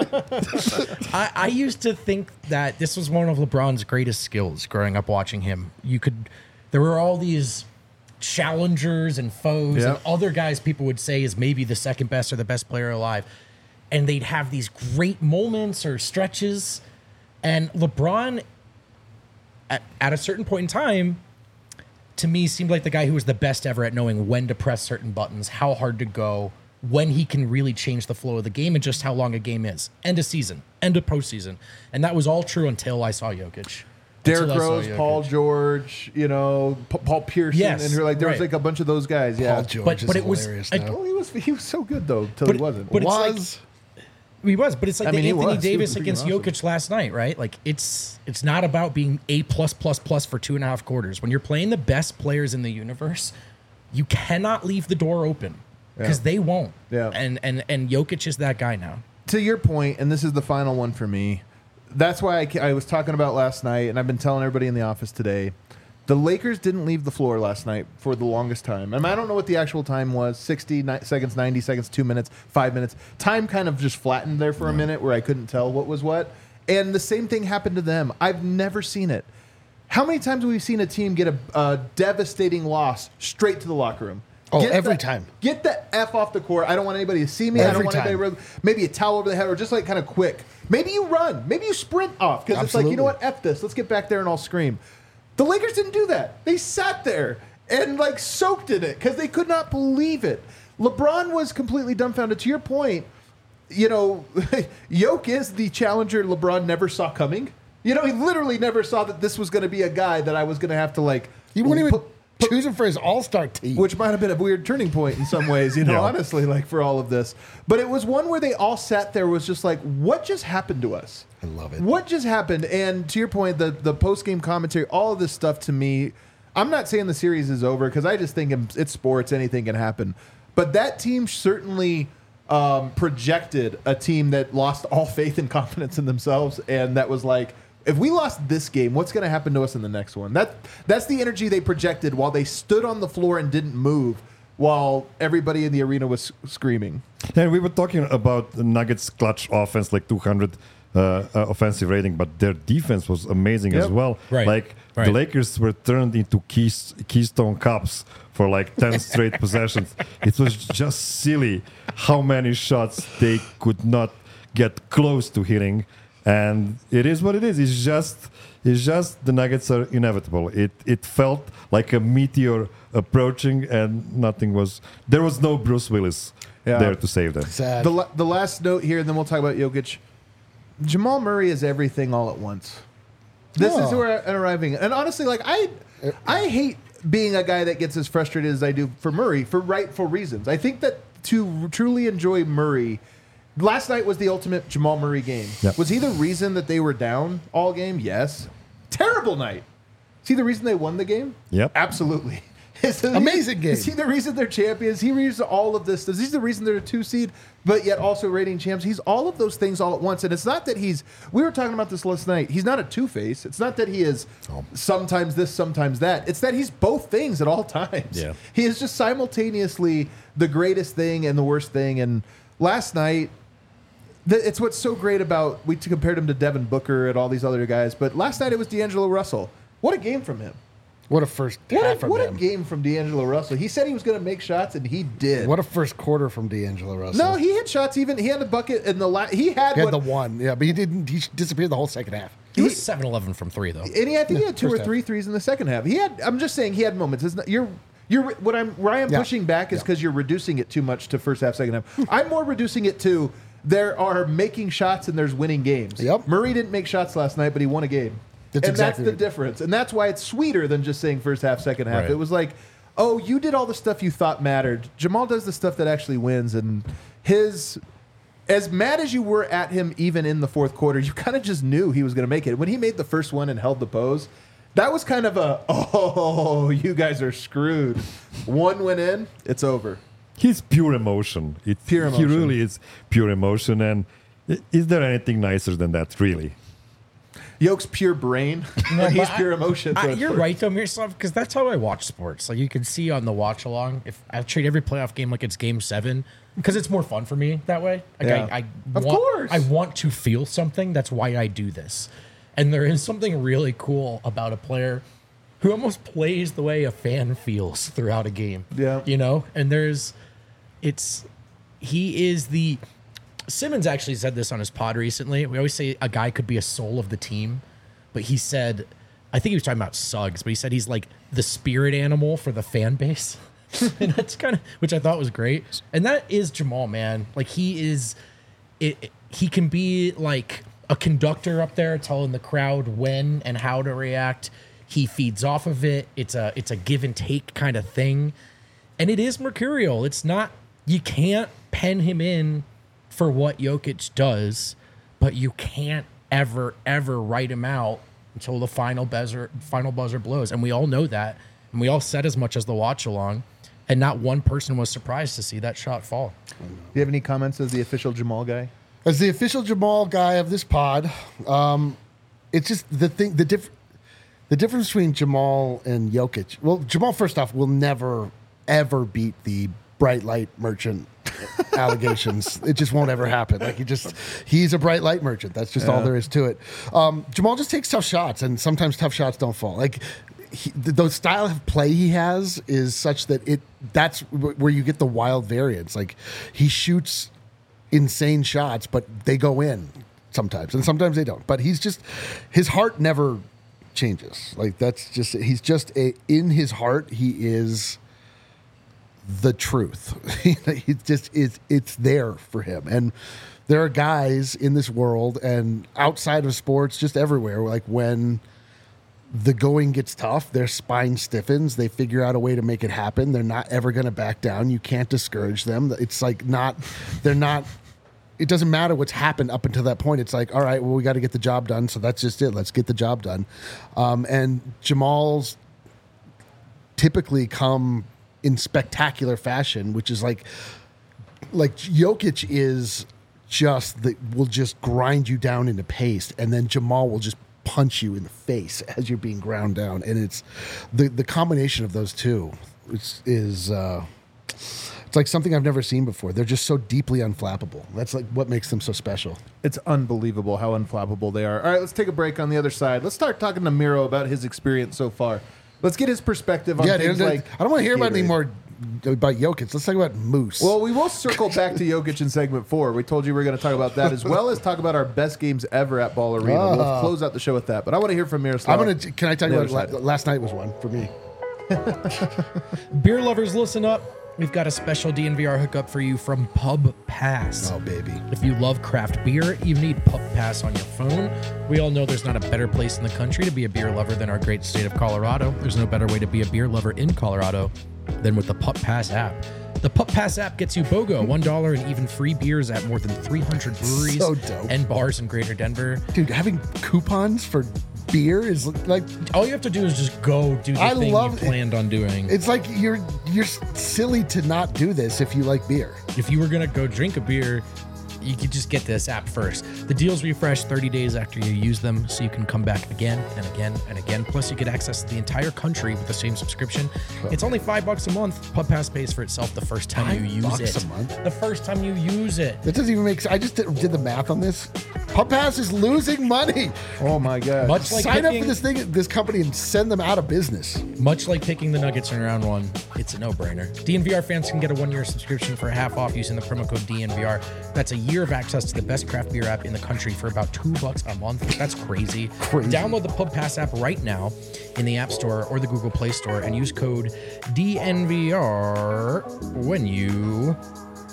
I used to think that this was one of LeBron's greatest skills growing up watching him. There were all these challengers and foes and other guys people would say is maybe the second best or the best player alive. And they'd have these great moments or stretches. And LeBron, at a certain point in time, to me, seemed like the guy who was the best ever at knowing when to press certain buttons, how hard to go, when he can really change the flow of the game, and just how long a game is. End of season, end of postseason. And that was all true until I saw Jokic. Derrick Rose, Paul George, Paul Pearson, Yes, and there was right. like a bunch of those guys. Yeah, Paul George But is it was hilarious like- now. Well, he was so good though till he wasn't. but it's like- Was He was, but it's like I mean, the he Anthony was. He Davis was freaking against awesome. Jokic last night, right? Like it's not about being A+++ for 2.5 quarters. When you're playing the best players in the universe, you cannot leave the door open because they won't. Yeah. And Jokic is that guy now. To your point, and this is the final one for me. That's why I was talking about last night, and I've been telling everybody in the office today. The Lakers didn't leave the floor last night for the longest time. I don't know what the actual time was, 60 seconds, 90 seconds, 2 minutes, 5 minutes. Time kind of just flattened there for a minute where I couldn't tell what was what. And the same thing happened to them. I've never seen it. How many times have we seen a team get a devastating loss straight to the locker room? Oh, Get every the- time. Get the F off the court. I don't want anybody to see me. I Every don't want time. anybody to maybe a towel over the head or just like kind of quick. Maybe you run. Maybe you sprint off because it's like, you know what? F this. Let's get back there and I'll scream. The Lakers didn't do that. They sat there and like soaked in it because they could not believe it. LeBron was completely dumbfounded. To your point, Jokic is the challenger LeBron never saw coming. He literally never saw that this was going to be a guy that I was going to have to like. he wouldn't even choose him for his all-star team. Which might have been a weird turning point in some ways, honestly, like for all of this. But it was one where they all sat there was just like, what just happened to us? I love it. What just happened? And to your point, the post-game commentary, all of this stuff to me, I'm not saying the series is over because I just think it's sports, anything can happen. But that team certainly projected a team that lost all faith and confidence in themselves. And that was like, if we lost this game, what's going to happen to us in the next one? That's the energy they projected while they stood on the floor and didn't move while everybody in the arena was screaming. And we were talking about the Nuggets' clutch offense, like 200 offensive rating, but their defense was amazing as well. Right. Like Right. the Lakers were turned into Keystone Cups for like 10 straight possessions. It was just silly how many shots they could not get close to hitting. And it is what it is. It's just the Nuggets are inevitable. It felt like a meteor approaching, and there was no Bruce Willis there to save them. Sad. The last note here, and then we'll talk about Jokic. Jamal Murray is everything all at once. This is where I'm arriving. And honestly, like I hate being a guy that gets as frustrated as I do for Murray for rightful reasons. I think that to truly enjoy Murray, last night was the ultimate Jamal Murray game. Yep. Was he the reason that they were down all game? Yes. Terrible night. Is he the reason they won the game? Yep. Absolutely. Amazing game. Is he the reason they're champions? He reason all of this. He's the reason they're a 2 seed, but yet also reigning champs. He's all of those things all at once. And it's not that we were talking about this last night. He's not a two-face. It's not that he is sometimes this, sometimes that. It's that he's both things at all times. Yeah. He is just simultaneously the greatest thing and the worst thing. And last night, it's what's so great about, we compared him to Devin Booker and all these other guys, but last night it was D'Angelo Russell. What a game from him. What a first half from What a him. game from D'Angelo Russell. He said he was going to make shots, and he did. What a first quarter from D'Angelo Russell. No, he hit shots. He had a bucket in the last. He had He had what? the one, yeah, but he didn't. He disappeared the whole second half. He was 7-11 from 3, though. And I think he had 2 or first 3 threes in the second half. I'm just saying he had moments. It's not, where I'm Yeah. pushing back is Yeah. because you're reducing it too much to first half, second half. I'm more reducing it to there are making shots and there's winning games. Yep. Murray didn't make shots last night, but he won a game. That's and exactly that's the difference. And that's why it's sweeter than just saying first half, second half. Right. It was like, oh, you did all the stuff you thought mattered. Jamal does the stuff that actually wins. And his, as mad as you were at him even in the fourth quarter, you kind of just knew he was going to make it. When he made the first one and held the pose, that was kind of a, oh, you guys are screwed. One went in, it's over. He's pure emotion. Pure He emotion. really is pure emotion. And is there anything nicer than that, really? Yoke's pure brain, but he's pure emotion. So You're right though, Miroslav, because that's how I watch sports. Like you can see on the watch along. If I treat every playoff game like it's Game 7, because it's more fun for me that way. Like Yeah. Of course. I want to feel something. That's why I do this. And there is something really cool about a player who almost plays the way a fan feels throughout a game. Yeah. You know, and he is the. Simmons actually said this on his pod recently. We always say a guy could be a soul of the team, but he said, I think he was talking about Suggs, but he said he's like the spirit animal for the fan base. And that's kind of, which I thought was great. And that is Jamal, man. Like he is, he can be like a conductor up there telling the crowd when and how to react. He feeds off of it. It's a give and take kind of thing. And it is mercurial. It's not, you can't pen him in for what Jokic does, but you can't ever write him out until the final buzzer blows. And we all know that. And we all said as much as the watch along. And not one person was surprised to see that shot fall. Do you have any comments as the official Jamal guy? As the official Jamal guy of this pod, it's just the difference between Jamal and Jokic. Well, Jamal, first off, will never, ever beat the bright light merchant allegations. It just won't ever happen. Like he's a bright light merchant. That's just all there is to it. Jamal just takes tough shots, and sometimes tough shots don't fall. Like the style of play he has is such that that's where you get the wild variance. Like he shoots insane shots, but they go in sometimes, and sometimes they don't. But his heart never changes. Like in his heart, he is the truth. It's there for him. And there are guys in this world and outside of sports, just everywhere, like when the going gets tough, their spine stiffens, they figure out a way to make it happen. They're not ever going to back down. You can't discourage them. It's like it doesn't matter what's happened up until that point. It's like, all right, well, we got to get the job done. So that's just it. Let's get the job done. And Jamal's typically come in spectacular fashion, which is like Jokic is will just grind you down into paste, and then Jamal will just punch you in the face as you're being ground down. And it's the combination of those two is it's like something I've never seen before. They're just so deeply unflappable. That's like what makes them so special. It's unbelievable how unflappable they are. All right, let's take a break on the other side. Let's start talking to Miro about his experience so far. Let's get his perspective on things like I don't want to hear about Gatorade. any more about Jokic. Let's talk about Moose. Well, we will circle back to Jokic in segment 4. We told you we were going to talk about that as well as talk about our best games ever at Ball Arena. We'll close out the show with that. But I want to hear from Miroslav. Can I tell you The what? other side. Last night was one for me. Beer lovers, listen up. We've got a special DNVR hookup for you from Pub Pass. Oh, baby. If you love craft beer, you need Pub Pass on your phone. We all know there's not a better place in the country to be a beer lover than our great state of Colorado. There's no better way to be a beer lover in Colorado than with the Pub Pass app. The Pub Pass app gets you BOGO, $1 and even free beers at more than 300 breweries So dope. and bars in Greater Denver. Dude, having coupons for beer is like, All you have to do is just go do the I thing love you it. planned on doing. it's like you're silly to not do this if you like beer. If you were going to go drink a beer, you could just get this app first. The deals refresh 30 days after you use them, so you can come back again and again and again. Plus, you get access to the entire country with the same subscription. It's only $5 a month. Pub Pass pays for itself the first time you use $5 it. a month? The first time you use it. That doesn't even make sense. I just did the math on this. Pub Pass is losing money. Oh, my God. Much like Sign up picking- for this company and send them out of business. Much like picking the Nuggets in round 1, it's a no-brainer. DNVR fans can get a 1-year subscription for half off using the promo code DNVR. That's a year of access to the best craft beer app in the country for about $2 a month. That's crazy. Download the Pub Pass app right now in the App Store or the Google Play Store and use code DNVR when you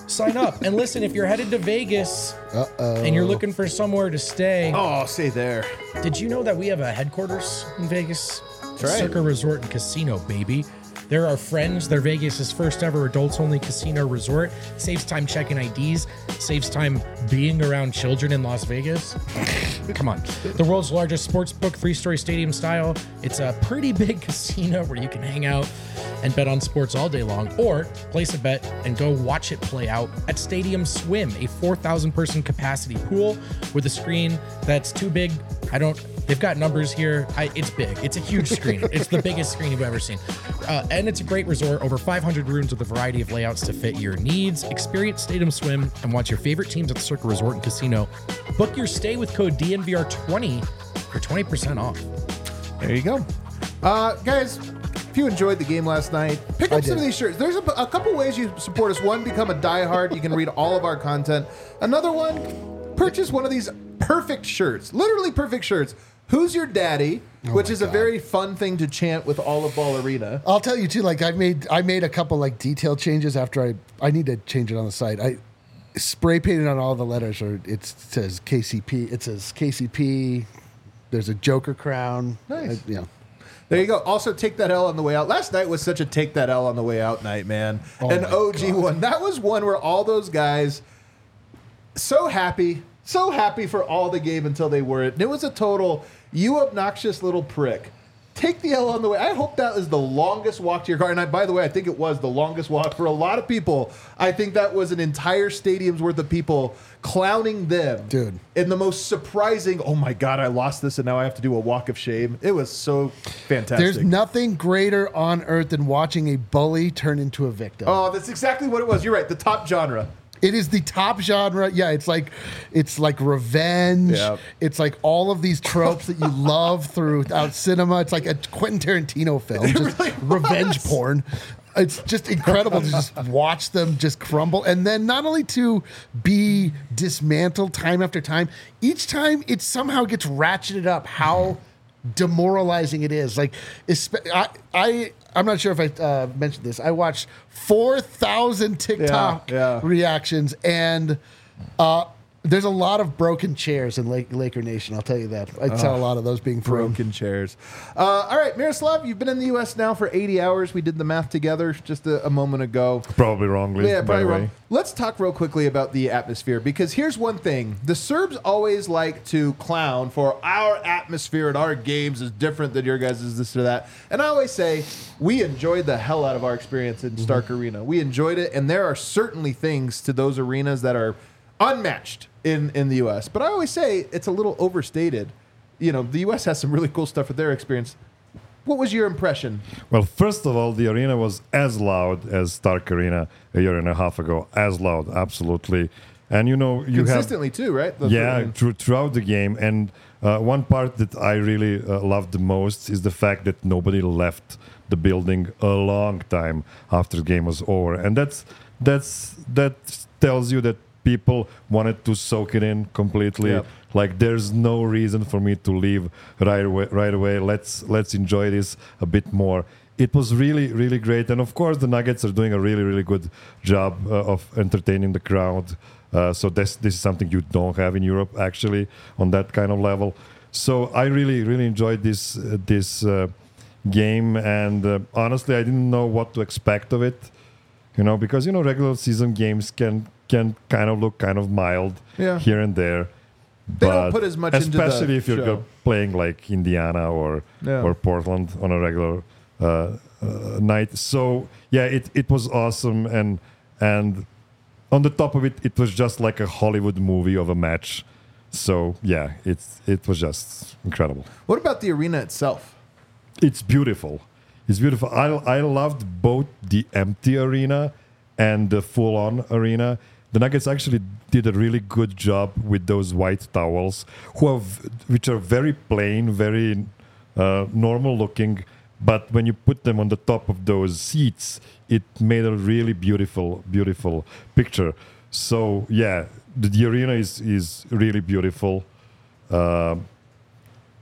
sign up. And listen, if you're headed to Vegas and you're looking for somewhere to stay, Oh, stay there. did you know that we have a headquarters in Vegas? That's right. Circa Resort and Casino, baby. They're our friends. They're Vegas' first ever adults-only casino resort. Saves time checking IDs. Saves time being around children in Las Vegas. Come on. The world's largest sports book, 3-story stadium style. It's a pretty big casino where you can hang out and bet on sports all day long, or place a bet and go watch it play out at Stadium Swim, a 4,000-person capacity pool with a screen that's too big. They've got numbers here. It's big. It's a huge screen. It's the biggest screen you've ever seen. And it's a great resort. Over 500 rooms with a variety of layouts to fit your needs. Experience Stadium Swim and watch your favorite teams at the Circa Resort and Casino. Book your stay with code DNVR20 for 20% off. There you go. Guys, if you enjoyed the game last night, pick up some of these shirts. There's a couple ways you support us. One, become a diehard. You can read all of our content. Another one, purchase one of these perfect shirts. Literally perfect shirts. Who's Your Daddy? Which is a very fun thing to chant with Olive Ball Arena. I'll tell you too. Like I made a couple like detail changes after I need to change it on the site. I spray painted on all the letters, or it says KCP. It says KCP. There's a Joker crown. Nice. There you go. Also, Take That L on the way out. Last night was such a Take That L on the way out night, man. An OG one. That was one where all those guys so happy for all the game until they weren't. And it was a total, you obnoxious little prick. Take the L on the way. I hope that is the longest walk to your car. And by the way, I think it was the longest walk for a lot of people. I think that was an entire stadium's worth of people clowning them. Dude. In the most surprising, oh my God, I lost this and now I have to do a walk of shame. It was so fantastic. There's nothing greater on earth than watching a bully turn into a victim. Oh, that's exactly what it was. You're right. The top genre. It is the top genre. Yeah, it's like revenge. Yep. It's like all of these tropes that you love throughout cinema. It's like a Quentin Tarantino film, just really revenge porn. It's just incredible to just watch them just crumble. And then not only to be dismantled time after time, each time it somehow gets ratcheted up how demoralizing it is. Like, I'm not sure if I mentioned this. I watched 4,000 TikTok reactions, and there's a lot of broken chairs in Laker Nation. I'll tell you that. I saw a lot of those being thrown. Broken chairs. All right, Miroslav, you've been in the U.S. now for 80 hours. We did the math together just a moment ago. Probably wrongly. Yeah, by probably the wrong. way. Let's talk real quickly about the atmosphere, because here's one thing. The Serbs always like to clown for our atmosphere at our games is different than your guys' this or that. And I always say we enjoyed the hell out of our experience in Stark Arena. We enjoyed it, and there are certainly things to those arenas that are unmatched in the U.S. But I always say it's a little overstated. You know, the U.S. has some really cool stuff with their experience. What was your impression? Well, first of all, the arena was as loud as Stark Arena a year and a half ago. As loud, absolutely. And you know, you consistently too, right? Throughout the game. And one part that I really loved the most is the fact that nobody left the building a long time after the game was over, and that tells you that people wanted to soak it in completely. Yep. Like, there's no reason for me to leave right away. Let's enjoy this a bit more. It was really, really great. And of course, the Nuggets are doing a really, really good job of entertaining the crowd. So this is something you don't have in Europe, actually, on that kind of level. So I really, really enjoyed this game. And honestly, I didn't know what to expect of it. You know, because, you know, regular season games can kind of look kind of mild here and there. They don't put as much into the especially if you're show. Playing like Indiana or Portland on a regular night. So yeah, it was awesome, and on the top of it, it was just like a Hollywood movie of a match. So yeah, it was just incredible. What about the arena itself? It's beautiful. It's beautiful. I loved both the empty arena and the full-on arena. The Nuggets actually did a really good job with those white towels, which are very plain, very normal looking. But when you put them on the top of those seats, it made a really beautiful, beautiful picture. So yeah, the arena is really beautiful.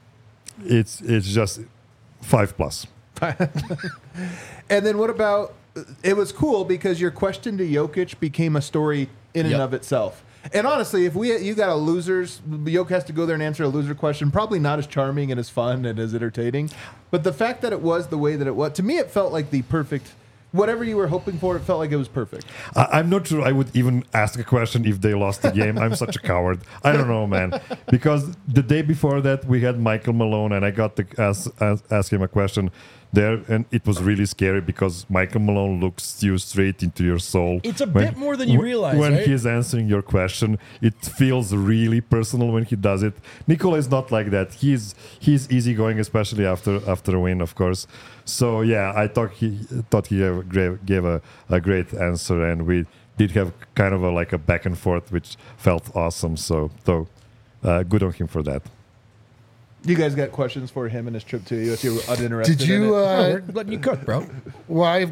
It's just 5+. And then what about it was cool because your question to Jokic became a story in and Yep. of itself. And honestly, if you got a losers, Jokic has to go there and answer a loser question. Probably not as charming and as fun and as entertaining. But the fact that it was the way that it was, to me, it felt like the perfect. Whatever you were hoping for, it felt like it was perfect. I'm not sure I would even ask a question if they lost the game. I'm such a coward. I don't know, man. Because the day before that, we had Michael Malone, and I got to ask him a question there, and it was really scary because Michael Malone looks you straight into your soul. It's a bit more than you realize, When right? he's answering your question, it feels really personal when he does it. Nikola is not like that. He's easygoing, especially after a win, of course. So yeah, I thought he gave a great answer, and we did have kind of like a back and forth, which felt awesome. So good on him for that. You guys got questions for him and his trip to you if you're uninterested Did you? in it? We're letting you cook, bro. Well,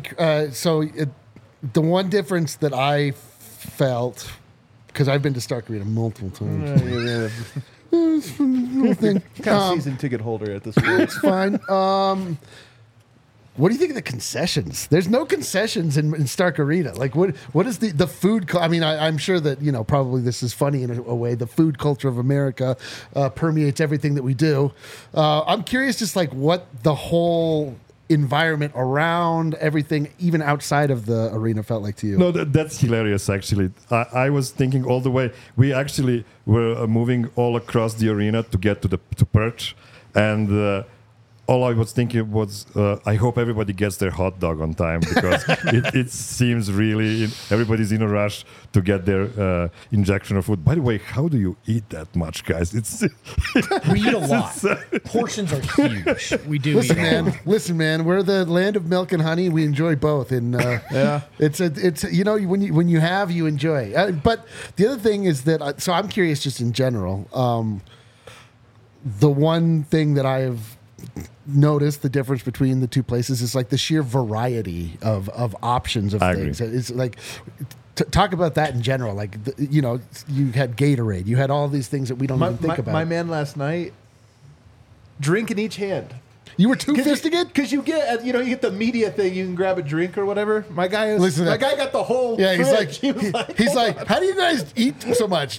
the one difference that I felt, because I've been to Stark Arena multiple times. Little thing. Kind of season ticket holder at this point. It's fine. What do you think of the concessions? There's no concessions in Stark Arena. Like, what is the food? I mean, I'm sure that, probably this is funny in a way. The food culture of America permeates everything that we do. I'm curious, just like what the whole environment around everything, even outside of the arena, felt like to you. No, that's hilarious, actually. I was thinking all the way. We actually were moving all across the arena to get to Perch, and all I was thinking was, I hope everybody gets their hot dog on time, because it seems really everybody's in a rush to get their injection of food. By the way, how do you eat that much, guys? We eat a lot. Portions are huge. We do. Listen, man. We're the land of milk and honey. We enjoy both, and it's when you have, you enjoy. But the other thing is that, so I'm curious, just in general. The one thing that I have noticed the difference between the two places is like the sheer variety of options of things. It's like talk about that in general. Like you had Gatorade, you had all these things that we don't even think about. My man last night, drink in each hand. You were two-fisting it? Because you get the media thing. You can grab a drink or whatever. My guy got the whole. Yeah, fridge. He's like, how do you guys eat so much?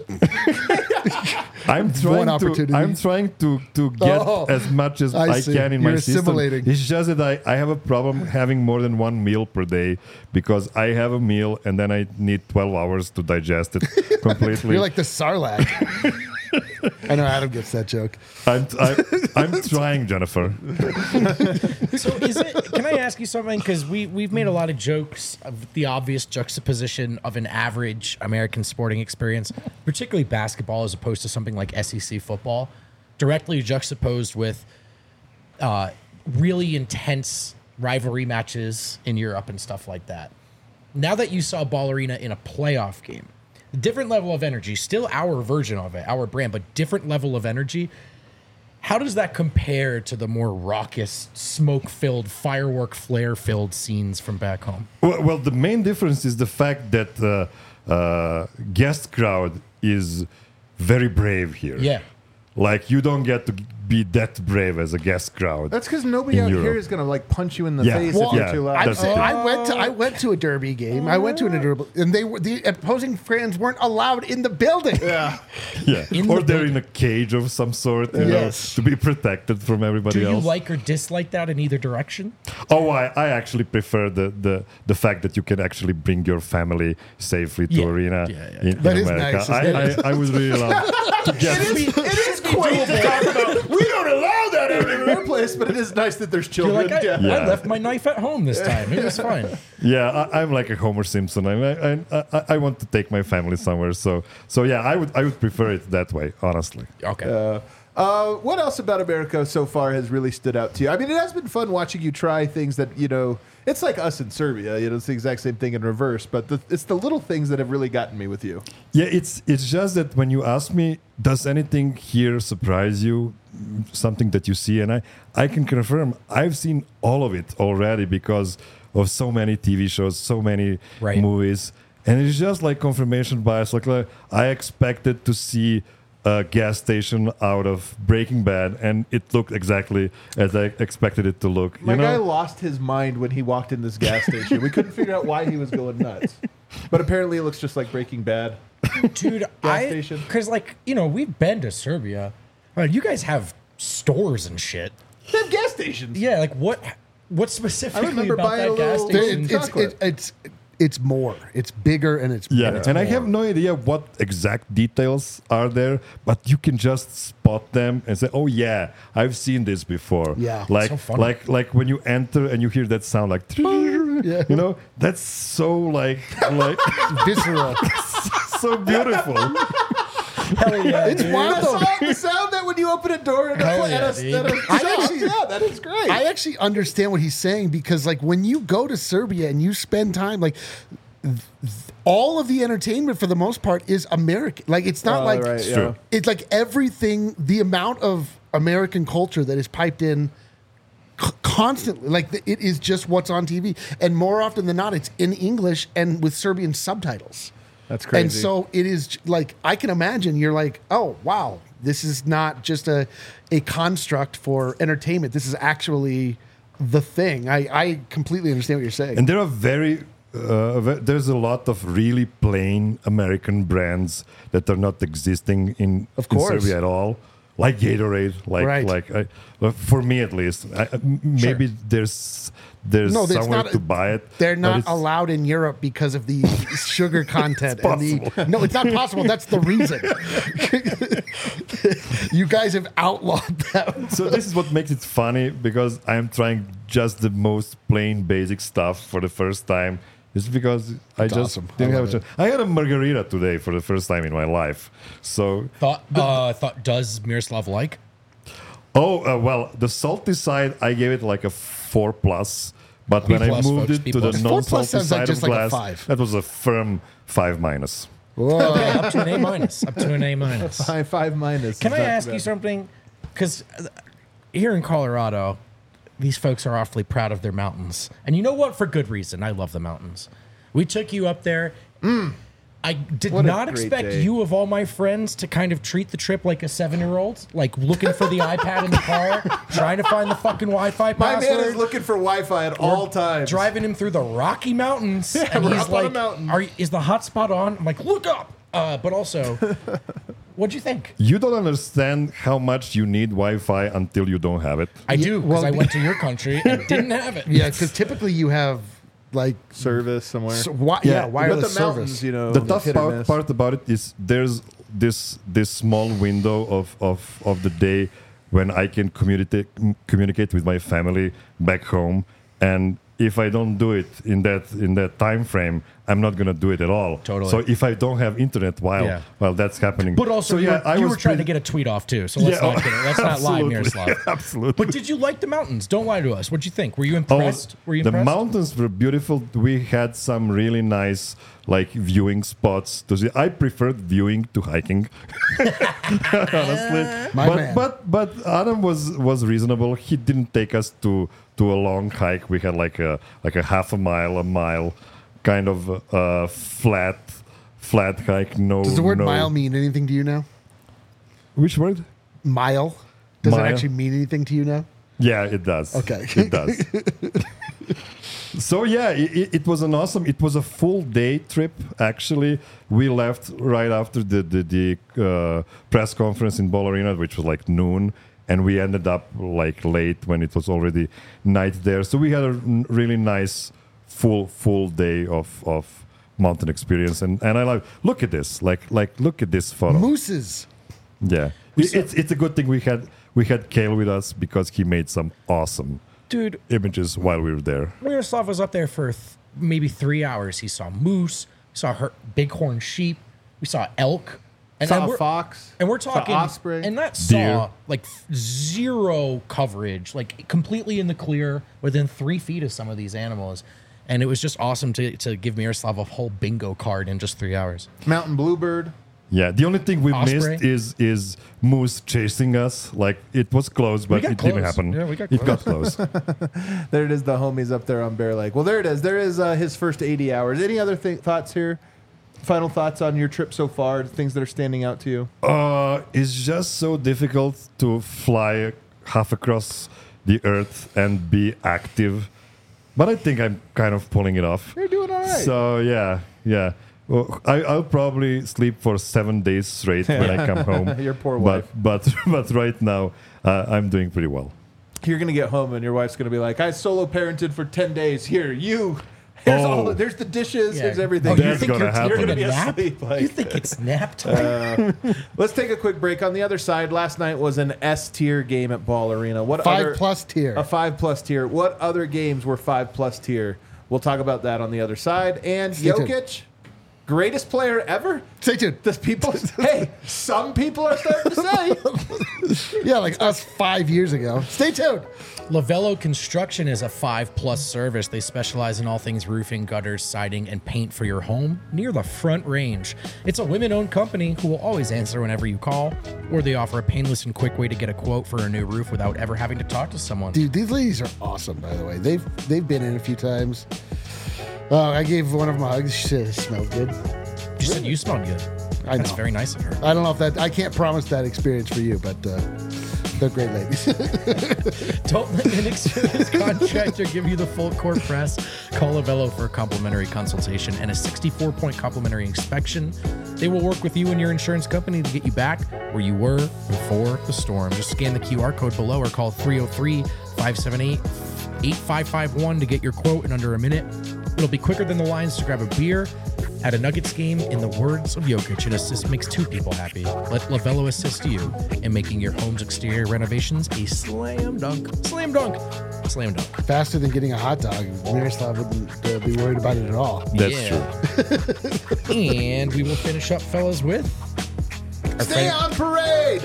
I'm trying to get as much as I can in my system. It's just that I have a problem having more than one meal per day, because I have a meal and then I need 12 hours to digest it completely. You're like the Sarlacc. I know Adam gets that joke. I'm trying, Jennifer. So can I ask you something? Because we've made a lot of jokes of the obvious juxtaposition of an average American sporting experience, particularly basketball, as opposed to something like SEC football, directly juxtaposed with really intense rivalry matches in Europe and stuff like that. Now that you saw Ball Arena in a playoff game, different level of energy, still our version of it, our brand, but different level of energy. How does that compare to the more raucous, smoke-filled, firework flare-filled scenes from back home? Well, the main difference is the fact that guest crowd is very brave here. Yeah. Like, you don't get to be that brave as a guest crowd. That's because nobody out here is going to punch you in the face if you're too loud. I went to a Derby game. I went to a Derby, and the opposing fans weren't allowed in the building. Yeah. Or they're in a cage of some sort, to be protected from everybody else. Do you like or dislike that in either direction? Oh, I actually prefer the fact that you can actually bring your family safely to arena in America. Nice, I would really love to get It is quaint to talk about. We don't allow that everywhere place, but it is nice that there's children. You're like, I left my knife at home this time. It was fine. Yeah, I'm like a Homer Simpson. I want to take my family somewhere. So yeah, I would prefer it that way, honestly. Okay. What else about America so far has really stood out to you? I mean, it has been fun watching you try things that, it's like us in Serbia. It's the exact same thing in reverse, but it's the little things that have really gotten me with you. Yeah, it's just that when you ask me, does anything here surprise you? Something that you see, and I can confirm I've seen all of it already because of so many TV shows, so many movies, and it's just like confirmation bias. Like I expected to see gas station out of Breaking Bad, and it looked exactly as I expected it to look. My guy lost his mind when he walked in this gas station. We couldn't figure out why he was going nuts. But apparently it looks just like Breaking Bad. Dude, station. Because, like, you know, we've been to Serbia. You guys have stores and shit. They have gas stations. Yeah, like, what specifically I remember about buying that gas a little- station? It's more. It's bigger and it's Yeah, it's and I more. have no idea what exact details are there, but you can just spot them and say, "Oh yeah, I've seen this before." Yeah. like So funny. like when you enter and you hear that sound, like, Yeah. you know, that's so like visceral. so beautiful. Hell yeah, It's dude. wild though. The sound that when you open a door and Hell at yeah, a dude. shop. That is great. I actually understand what he's saying because, like, when you go to Serbia and you spend time, like, all of the entertainment for the most part is American. Like, it's not like right, True. it's like everything. The amount of American culture that is piped in constantly, like, it is just what's on TV, and more often than not, it's in English and with Serbian subtitles. That's crazy. And so it is like, I can imagine you're like, oh, wow, this is not just a construct for entertainment. This is actually the thing. I completely understand what you're saying. And there are there's a lot of really plain American brands that are not existing in course. Serbia at all, like Gatorade, Right. for me at least. Maybe there's No, it's somewhere not- to buy it. They're but not it's- allowed in Europe because of the sugar content. No, it's not possible. That's the reason. You guys have outlawed them. So this is what makes it funny, because I'm trying just the most plain basic stuff for the first time. It's because I just awesome. didn't I have a love chance. I had a margarita today for the first time in my life. So Thought does Miroslav like? well, the salty side, I gave it like a 4+. But when I plus, moved folks, it B to the plus. 4+ non-salty sounds like side just of like a glass, 5. that was a firm 5-. Whoa. Okay, up to an A minus. Up to an A minus. Five minus. Can I Is that ask you bad? something? Because here in Colorado, these folks are awfully proud of their mountains, and you know what? For good reason. I love the mountains. We took you up there. I did What a not great expect day. you, of all my friends, to kind of treat the trip like a 7-year-old, like looking for the iPad in the car, trying to find the fucking Wi-Fi My password. man is looking for Wi-Fi at all times. Driving him through the Rocky Mountains, and we're he's up on a like, mountain. Is the hotspot on?" I'm like, "Look up." But also, what'd you think? You don't understand how much you need Wi-Fi until you don't have it. I do, because well, I went to your country and didn't have it. Yeah, because typically you have, like, service somewhere. wireless but the service. mountains, you know, The tough hit or miss. part about it is there's this small window of the day when I can communicate with my family back home, and if I don't do it in that time frame, I'm not gonna do it at all. Totally. So if I don't have internet Yeah. while that's happening, But also, so you were trying to pretty- get a tweet off too, so let's Yeah, not get it. Let's not lie, absolutely. Miroslav. Absolutely. But did you like the mountains? Don't lie to us. What'd you think? Were you Oh, impressed? Were you the impressed? mountains were beautiful. We had some really nice like viewing spots to see. I preferred viewing to hiking, honestly. My man. But Adam was reasonable. He didn't take us to a long hike. We had like a half a mile, kind of flat hike. No. Does the word no- mile mean anything to you now? Which word? Mile? Does it Mile? actually mean anything to you now? Yeah, it does. Okay. It does. So yeah, it was an awesome. It was a full day trip. Actually, we left right after the press conference in Ball Arena, which was like noon, and we ended up like late when it was already night there. So we had a really nice full day of mountain experience, and I like look at this, like look at this photo. Mooses. Yeah, it's a good thing we had Kale with us because he made some awesome Dude, images while we were there. Miroslav was up there for maybe 3 hours. He saw moose, saw bighorn sheep, we saw elk, and Saw then a we're, fox. and we're saw talking osprey. and that Deer. saw like zero coverage, like completely in the clear, within 3 feet of some of these animals. And it was just awesome to give Miroslav a whole bingo card in just 3 hours. Mountain bluebird. Yeah, the only thing we Osprey? missed is moose chasing us. Like it was close, but got it didn't close. happen. Yeah, we got it got close. There it is, the homies up there on Bear Lake. Well, there it is. There is his first 80 hours. Any other thoughts here? Final thoughts on your trip so far? Things that are standing out to you? It's just so difficult to fly half across the earth and be active. But I think I'm kind of pulling it off. You're doing all right. So, yeah. Well, I'll probably sleep for 7 days straight when I come home. Your poor wife. But right now, I'm doing pretty well. You're going to get home and your wife's going to be like, I solo parented for 10 days. Here, you. There's the dishes. Here's everything. Oh, you That's think gonna you're happen. You're taking going to a be nap? asleep. Like, You think it's nap time? let's take a quick break. On the other side, last night was an S tier game at Ball Arena. What 5+ tier. A 5+ tier. What other games were 5+ tier? We'll talk about that on the other side. And Stay tuned. Jokic, greatest player ever? Stay tuned. Does people? Hey, some people are starting to say. Yeah, like us 5 years ago. Stay tuned. Lavello Construction is a 5+ service. They specialize in all things roofing, gutters, siding, and paint for your home near the Front Range. It's a women-owned company who will always answer whenever you call, or they offer a painless and quick way to get a quote for a new roof without ever having to talk to someone. Dude, these ladies are awesome, by the way. They've been in a few times. I gave one of them a hug. She said it smelled good. She said you smelled good. I That's know. very nice of her. I don't know if that, I can't promise that experience for you, but they're great ladies. Don't let an experienced contractor give you the full court press. Call Lavello for a complimentary consultation and a 64-point complimentary inspection. They will work with you and your insurance company to get you back where you were before the storm. Just scan the QR code below or call 303-578-8551 to get your quote in under a minute. It'll be quicker than the lines to grab a beer at a Nuggets game. In the words of Jokic, an assist makes two people happy. Let Lavello assist you in making your home's exterior renovations a slam dunk. Slam dunk. Slam dunk. Faster than getting a hot dog. Miroslav wouldn't be worried about it at all. That's true. And we will finish up, fellas, with our Stay friend- on parade.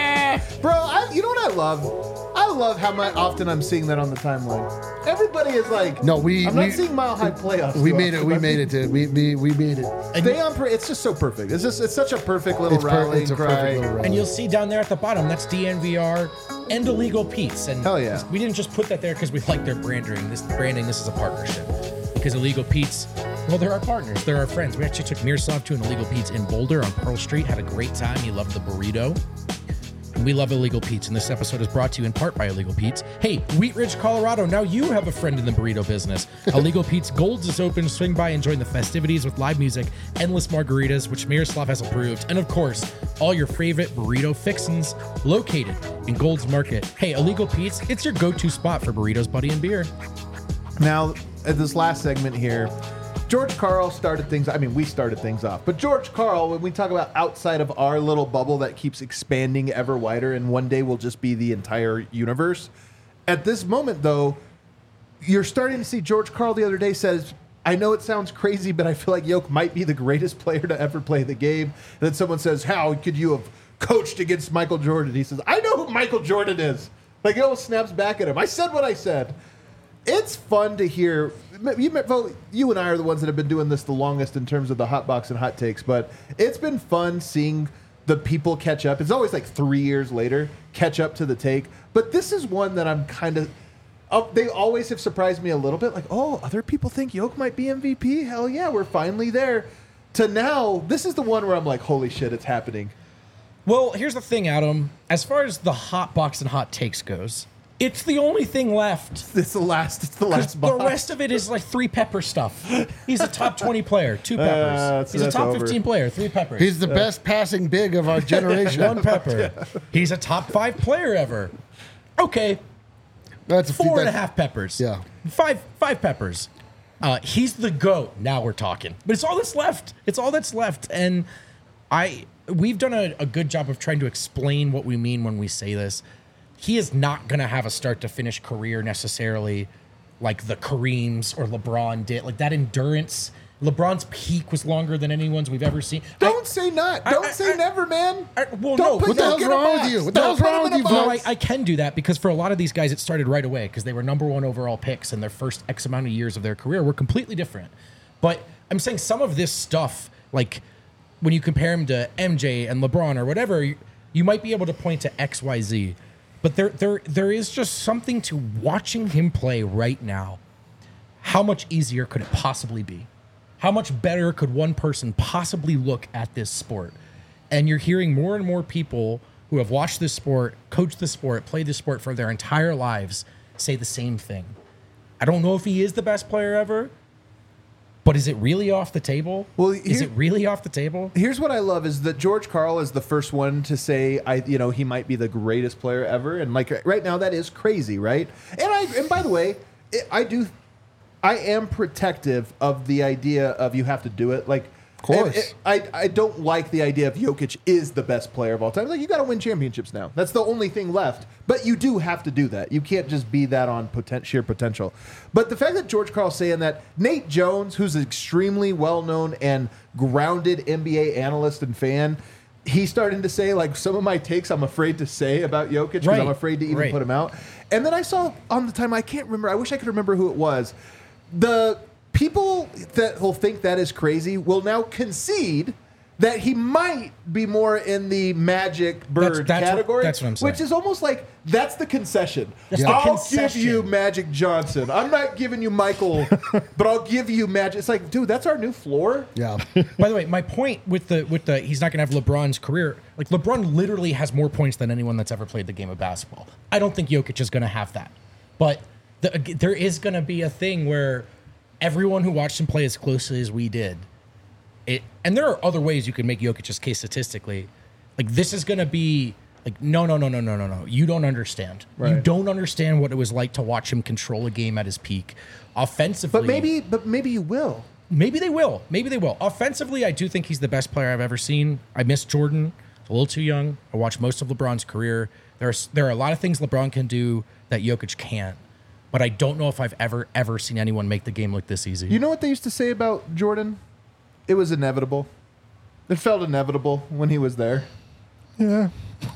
Bro, you know what I love? I love how often I'm seeing that on the timeline. Everybody is like, No, I'm not seeing Mile High playoffs. We too made it. often. We I'm made it, dude. We made it. Stay on parade. It's just so perfect. It's such a perfect little It's rallying a cry. perfect little rally. And you'll see down there at the bottom, that's DNVR and Illegal Pete's. And Hell yeah. we didn't just put that there because we like their branding. This is a partnership. Because Illegal Pete's, well, they're our partners. They're our friends. We actually took Miroslav to an Illegal Pete's in Boulder on Pearl Street. Had a great time. He loved the burrito. We love Illegal Pete's, and this episode is brought to you in part by Illegal Pete's. Hey, Wheat Ridge, Colorado, now you have a friend in the burrito business. Illegal Pete's Gold's is open. Swing by and join the festivities with live music, endless margaritas, which Miroslav has approved, and of course, all your favorite burrito fixins located in Gold's Market. Hey, Illegal Pete's, it's your go-to spot for burritos, buddy, and beer. Now, at this last segment here, George Karl started things. I mean, we started things off. But George Karl, when we talk about outside of our little bubble that keeps expanding ever wider and one day will just be the entire universe, at this moment, though, you're starting to see George Karl the other day says, I know it sounds crazy, but I feel like Yoke might be the greatest player to ever play the game. And then someone says, how could you have coached against Michael Jordan? He says, I know who Michael Jordan is. Like, it almost snaps back at him. I said what I said. It's fun to hear. You and I are the ones that have been doing this the longest in terms of the hot box and hot takes, but it's been fun seeing the people catch up. It's always like 3 years later, catch up to the take. But this is one that I'm kind of. They always have surprised me a little bit. Like, oh, other people think Yoke might be MVP. Hell yeah, we're finally there. To now, this is the one where I'm like, holy shit, it's happening. Well, here's the thing, Adam. As far as the hot box and hot takes goes, it's the only thing left. It's the last The box. rest of it is like 3 pepper stuff. He's a top 20 player, 2 peppers. He's a that's top over. 15 player, 3 peppers. He's the best passing big of our generation. 1 pepper. He's a top 5 player ever. Okay, That's 4.5 peppers. Yeah. 5 peppers. He's the GOAT. Now we're talking. But it's all that's left. It's all that's left. And we've done a good job of trying to explain what we mean when we say this. He is not going to have a start to finish career necessarily like the Kareems or LeBron did. Like that endurance. LeBron's peak was longer than anyone's we've ever seen. Don't say not. Don't say never, man. Well, Don't no. put What the Yoke hell's in a wrong with box. you? What the hell's Don't put wrong him in with a you, No, box. I can do that because for a lot of these guys, it started right away because they were number 1 overall picks and their first X amount of years of their career were completely different. But I'm saying some of this stuff, like when you compare him to MJ and LeBron or whatever, you might be able to point to X, Y, Z. But there is just something to watching him play right now. How much easier could it possibly be? How much better could one person possibly look at this sport? And you're hearing more and more people who have watched this sport, coached the sport, played the sport for their entire lives say the same thing. I don't know if he is the best player ever, but is it really off the table? Well, is it really off the table? Here's what I love is that George Karl is the first one to say, he might be the greatest player ever. And like right now, that is crazy, right? And by the way, I am protective of the idea of you have to do it. Like, of course. I don't like the idea of Jokic is the best player of all time. Like, you got to win championships now. That's the only thing left. But you do have to do that. You can't just be that on sheer potential. But the fact that George Karl's saying that, Nate Jones, who's an extremely well-known and grounded NBA analyst and fan, he's starting to say, like, some of my takes I'm afraid to say about Jokic because I'm afraid to even put him out. And then I saw on the time, I can't remember, I wish I could remember who it was. The people that will think that is crazy will now concede that he might be more in the Magic Bird category. That's what I'm saying. Which is almost like, that's the concession. I'll give you Magic Johnson. I'm not giving you Michael, but I'll give you Magic. It's like, dude, that's our new floor. Yeah. By the way, my point with the he's not going to have LeBron's career. Like, LeBron literally has more points than anyone that's ever played the game of basketball. I don't think Jokic is going to have that. But there is going to be a thing where everyone who watched him play as closely as we did, and there are other ways you can make Jokic's case statistically. Like, this is going to be like, no. You don't understand. Right. You don't understand what it was like to watch him control a game at his peak. Offensively. But maybe you will. Maybe they will. Offensively, I do think he's the best player I've ever seen. I miss Jordan. A little too young. I watched most of LeBron's career. There are a lot of things LeBron can do that Jokic can't. But I don't know if I've ever seen anyone make the game look this easy. You know what they used to say about Jordan? It was inevitable. It felt inevitable when he was there. Yeah.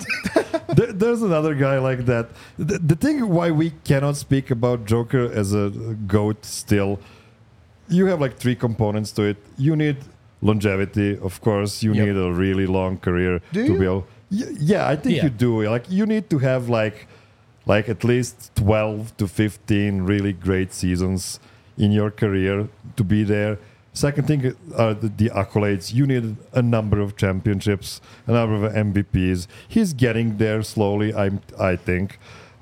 There's another guy like that. The thing why we cannot speak about Joker as a GOAT still, you have like three components to it. You need longevity, of course. You need a really long career to be able. Yeah, I think you do. Like, you need to have like at least 12 to 15 really great seasons in your career to be there. Second thing are the accolades. You need a number of championships, a number of MVPs. He's getting there slowly, I think.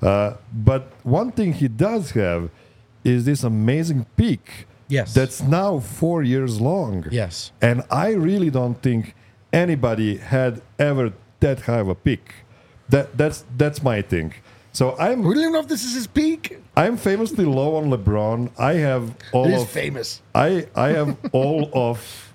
But one thing he does have is this amazing peak. Yes. That's now 4 years long. Yes. And I really don't think anybody had ever that high of a peak. That's my thing. So We don't even know if this is his peak. I'm famously low on LeBron. I have all He's of famous. I have all of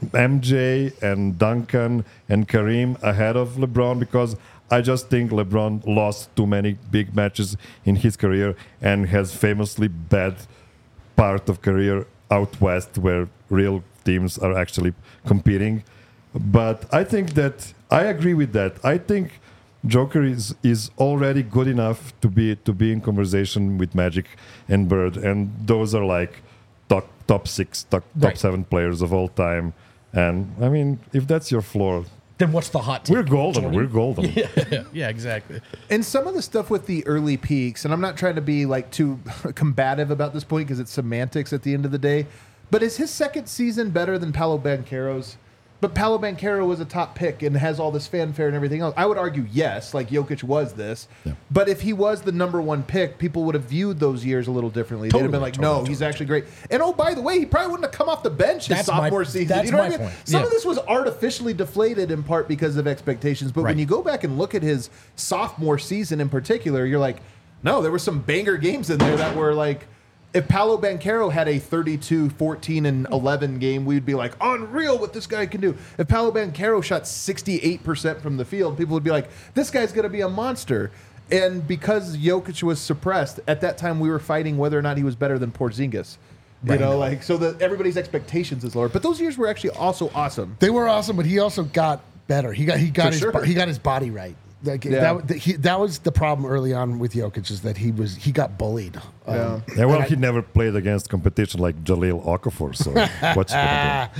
MJ and Duncan and Kareem ahead of LeBron because I just think LeBron lost too many big matches in his career and has famously bad part of career out west where real teams are actually competing. But I think that I agree with that. I think Joker is already good enough to be in conversation with Magic and Bird, and those are like top 6, top 7 players of all time. And I mean, if that's your floor, then what's the hot take? we're golden. Jordan? We're golden. Yeah, exactly. And some of the stuff with the early peaks, and I'm not trying to be like too combative about this point because it's semantics at the end of the day, but is his second season better than Paolo Banchero's? But Paolo Banchero was a top pick and has all this fanfare and everything else. I would argue yes, like Jokic was this. Yeah. But if he was the number one pick, people would have viewed those years a little differently. They'd have been like, he's actually great. And oh, by the way, he probably wouldn't have come off the bench his sophomore season. That's you know my what I mean? point. Some of this was artificially deflated in part because of expectations. But when you go back and look at his sophomore season in particular, you're like, no, there were some banger games in there that were like, if Paolo Banchero had a 32, 14, and 11 game, we'd be like, unreal what this guy can do. If Paolo Banchero shot 68% from the field, people would be like, this guy's going to be a monster. And because Jokic was suppressed, at that time we were fighting whether or not he was better than Porzingis. You know, like, so that everybody's expectations is lower. But those years were actually also awesome. They were awesome, but he also got better. He got his body right. Like that was the problem early on with Jokic is that he got bullied. He never played against competition like Jahlil Okafor. So what's gonna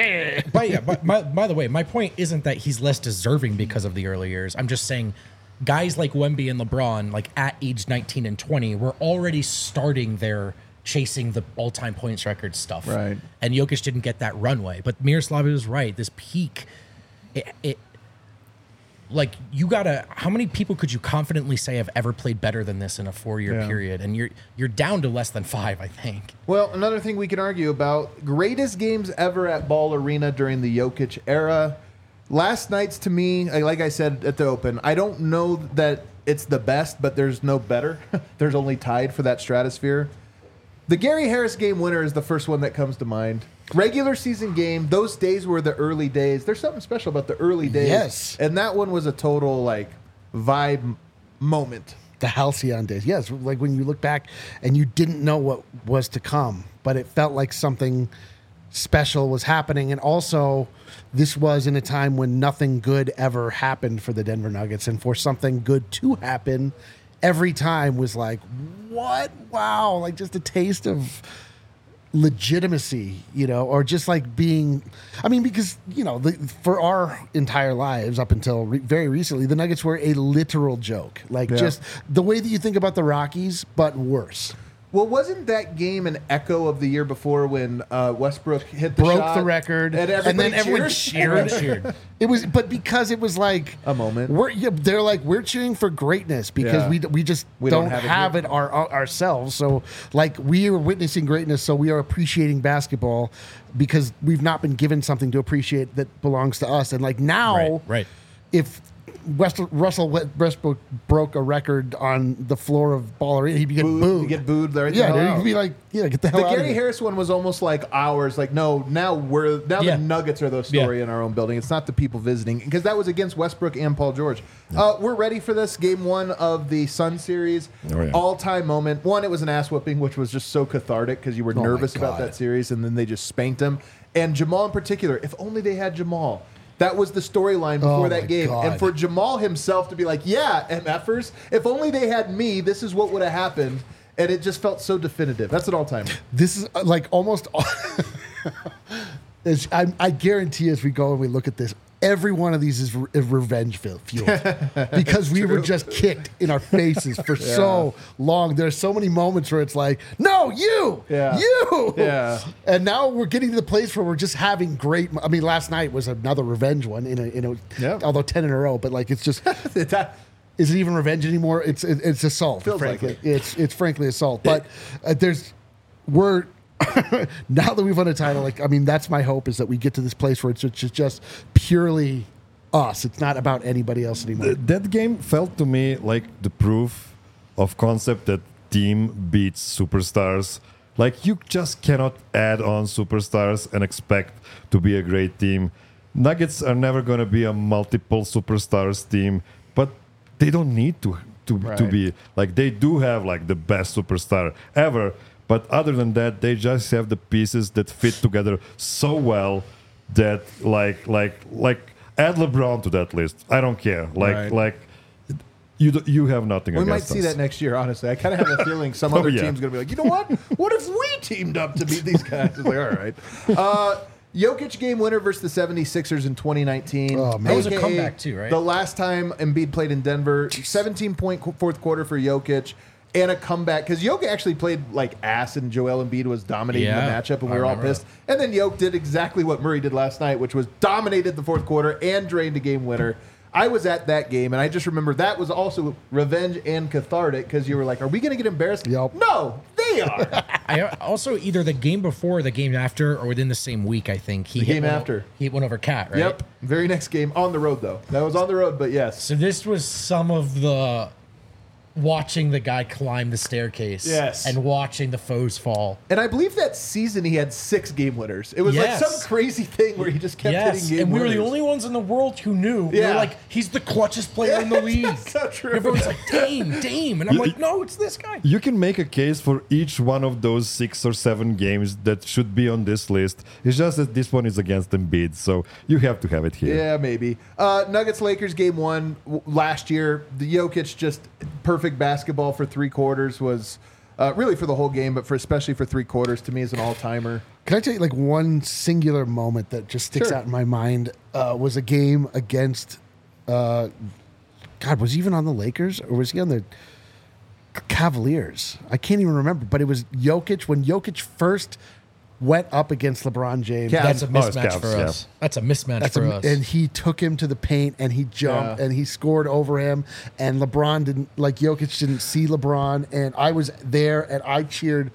do? By the way, my point isn't that he's less deserving because of the early years. I'm just saying, guys like Wemby and LeBron, like at age 19 and 20, were already starting their chasing the all-time points record stuff. Right. And Jokic didn't get that runway. But Miroslav was right. This peak, it like you gotta. How many people could you confidently say have ever played better than this in a 4-year period? And you're down to less than 5, I think. Well, another thing we can argue about: greatest games ever at Ball Arena during the Jokic era. Last night's, to me, like I said at the Open, I don't know that it's the best, but there's no better. There's only tied for that stratosphere. The Gary Harris game winner is the first one that comes to mind. Regular season game, those days were the early days. There's something special about the early days. Yes. And that one was a total, like, vibe moment. The Halcyon days. Yes, like when you look back and you didn't know what was to come, but it felt like something special was happening. And also, this was in a time when nothing good ever happened for the Denver Nuggets. And for something good to happen, every time was like, what? Wow. Like just a taste of legitimacy, you know, or just like being, I mean, because, you know, for our entire lives up until very recently, the Nuggets were a literal joke. Like just the way that you think about the Rockies, but worse. Well, wasn't that game an echo of the year before when Westbrook hit the Broke shot? the record, and then everyone cheered? cheered. It was, but because it was like A moment. They're like, we're cheering for greatness because we just don't have it ourselves. So like we are witnessing greatness, so we are appreciating basketball because we've not been given something to appreciate that belongs to us. And like now, Right. if Russell Westbrook broke a record on the floor of Ball Arena, he'd get booed. You get booed. Right Yeah, the hell dude, out. he'd be like, get the hell The out of Gary here. Harris one was almost like ours. Like, no, now the Nuggets are the story in our own building. It's not the people visiting, because that was against Westbrook and Paul George. We're ready for this game one of the Sun series. Oh, yeah. All-time moment. One, it was an ass whooping, which was just so cathartic because you were my nervous about God. that series, and then they just spanked him. And Jamal in particular, if only they had Jamal. That was the storyline before that my game. God. And for Jamal himself to be like, yeah, MFers, if only they had me, this is what would have happened. And it just felt so definitive. That's an all-timer. This is like almost. I guarantee as we go and we look at this, every one of these is revenge fueled because we were just kicked in our faces for so long. There's so many moments where it's like, no, you, Yeah. and now we're getting to the place where we're just having great. I mean, last night was another revenge one although 10 in a row, but like it's just. Is it even revenge anymore? It's assault. Feels frankly. like it. It's frankly assault. But we're now that we've won a title. Like I mean, that's my hope is that we get to this place where it's just purely us. It's not about anybody else anymore. That game felt to me like the proof of concept that team beats superstars. Like you just cannot add on superstars and expect to be a great team. Nuggets are never going to be a multiple superstars team, but they don't need to be. Like they do have like the best superstar ever, but other than that, they just have the pieces that fit together so well that like add LeBron to that list. I don't care. Like you have nothing We might against us. see that next year, honestly. I kind of have a feeling some other team's going to be like, you know what? What if we teamed up to beat these guys? It's like, all right. Jokic game winner versus the 76ers in 2019. Oh, man. That was a AKA comeback too, right? The last time Embiid played in Denver, 17-point fourth quarter for Jokic, and a comeback. Because Jokic actually played like ass, and Joel Embiid was dominating the matchup, and we were all pissed. And then Jokic did exactly what Murray did last night, which was dominated the fourth quarter and drained a game winner. I was at that game, and I just remember that was also revenge and cathartic because you were like, are we going to get embarrassed? Yep. No, they are. I also either the game before or the game after or within the same week, I think. He hit game one after. He hit one over Cat, right? Yep. Very next game on the road, though. That was on the road, but yes. So this was some of the watching the guy climb the staircase and watching the foes fall. And I believe that season he had 6 game winners. It was like some crazy thing where he just kept hitting game and we winners. were the only ones in the world who knew. We were like, he's the clutchest player in the league. That's so true. Everyone's like, Dame. And I'm like, no, it's this guy. You can make a case for each one of those 6 or 7 games that should be on this list. It's just that this one is against Embiid, so you have to have it here. Yeah, maybe. Nuggets-Lakers game 1 last year. The Jokic just perfect basketball for 3 quarters was really for the whole game, but especially for 3 quarters to me is an all-timer. Can I tell you like one singular moment that just sticks out in my mind was a game against God, was he even on the Lakers or was he on the Cavaliers. I can't even remember, but it was Jokic when Jokic first went up against LeBron James. Yeah. That's a it's mismatch Cavs, for yeah. us. That's a mismatch That's for us. and he took him to the paint and he jumped Yeah. and he scored over him and LeBron didn't like Jokic didn't see LeBron and I was there and I cheered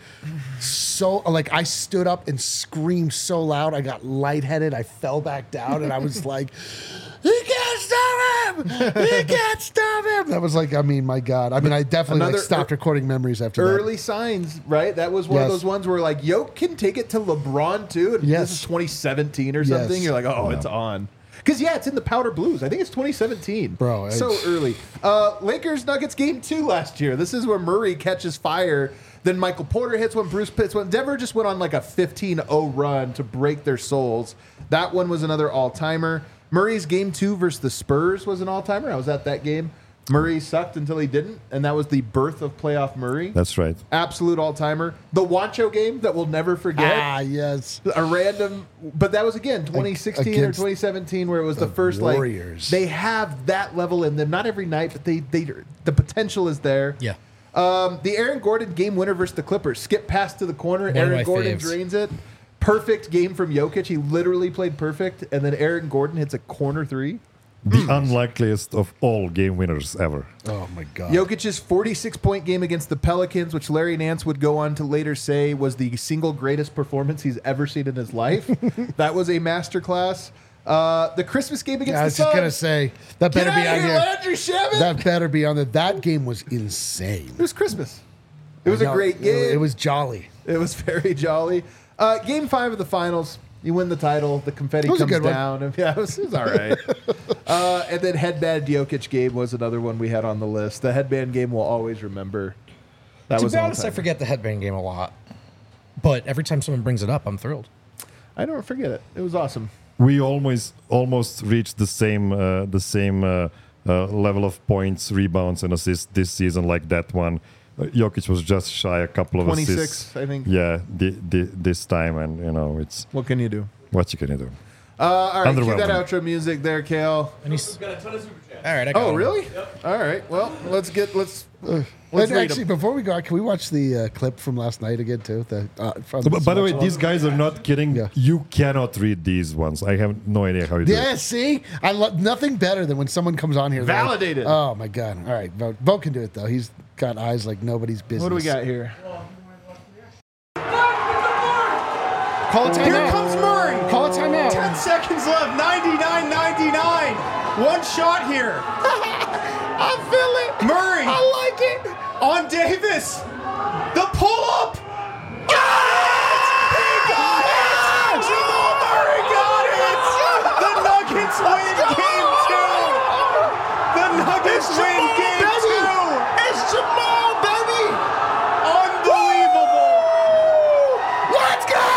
so like I stood up and screamed so loud I got lightheaded. I fell back down and I was like, he can't stop him! He can't stop him! That was like, I mean, my God. I mean, I definitely like, Another stopped recording memories after that. Early signs, right? That was one of Yes. those ones where like Yoke can take it to LeBron too. And Yes. This is 2017 or something. Yes. You're like, oh, it's on. Because yeah, it's in the Powder Blues. I think it's 2017. Bro, so early. Lakers Nuggets game 2 last year. This is where Murray catches fire. Then Michael Porter hits one. Bruce Pitts one. Denver just went on like a 15-0 run to break their souls. That one was another all-timer. Murray's game 2 versus the Spurs was an all-timer. I was at that game. Murray sucked until he didn't, and that was the birth of playoff Murray. That's right. Absolute all-timer. The Wancho game that we'll never forget. Ah, yes. A random, but that was again 2016 or Against 2017 where it was the first Warriors. like they have that level in them. Not every night, but they the potential is there. yeah. The Aaron Gordon game winner versus the Clippers. Skip pass to the corner. of Aaron my Gordon faves. drains it. Perfect game from Jokic. He literally played perfect, and then Aaron Gordon hits a corner 3. The unlikeliest of all game winners ever. Oh, my God. Jokic's 46-point game against the Pelicans, which Larry Nance would go on to later say was the single greatest performance he's ever seen in his life. That was a masterclass. The Christmas game against I the was just going to Suns. say, that Get better out be of on here, here. Landry Shamet. That better be on there. That game was insane. It was Christmas. It was a No, great game. It was jolly. It was very jolly. Game 5 of the finals. You win the title. The confetti was a comes good one. down. And, yeah, it was all right. And then headband Jokic game was another one we had on the list. The headband game we'll always remember. That To was be an honest, I all-timer. forget the headband game a lot. But every time someone brings it up, I'm thrilled. I don't forget it. It was awesome. We almost reached the same level of points, rebounds, and assists this season like that one. Jokic was just shy a couple of 26, assists. I think. Yeah, this time, and it's What can you do? what you can do. All right, cue that Underwhelming. outro music there, Kale. And he's got a ton of super chats. All right, I got Oh, one. really? Yep. All right. Well, let's And read actually, 'em. before we go, can we watch the clip from last night again, too? From By the way, Smash these guys are not kidding. Yeah. You cannot read these ones. I have no idea how you do Yeah, it. see? I love nothing better than when someone comes on here. like, Validated. oh, my God. All right. Vote can do it, though. He's got eyes like nobody's business. What do we got here? Call a timeout. Here comes Murray. Call a timeout. 10 seconds left. 99-99. One shot here. I feel it. Murray I like it. on Davis. The pull-up. He got it. Jamal Murray got it. The Nuggets win game 2. The Nuggets win game 2. It's Jamal, baby. Unbelievable. Let's go.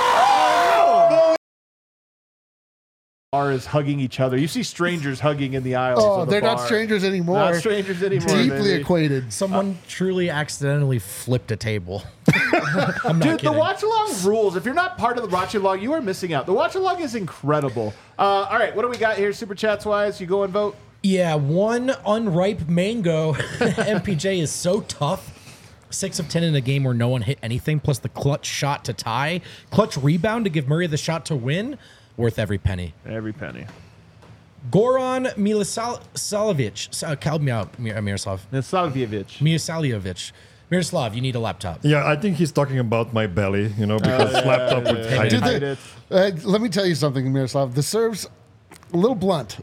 Is hugging each other. You see strangers hugging in the aisles. Oh, of the they're not bar. strangers anymore. Not strangers anymore. Deeply baby. acquainted. Someone truly accidentally flipped a table. I'm not Dude, the kidding. watch along rules. If you're not part of the watch along, you are missing out. The watch along is incredible. All right, what do we got here, super chats wise? You go and vote. Yeah, one unripe mango. MPJ is so tough. 6 of 10 in a game where no one hit anything, plus the clutch shot to tie, clutch rebound to give Murray the shot to win. Worth every penny. Every penny. Goran Milosavljevic. Help me out, Miroslav. Nasavjevic. Mirosaljevic. Miroslav, you need a laptop. Yeah, I think he's talking about my belly, because laptop would hide Dude, it. let me tell you something, Miroslav. The serve's a little blunt.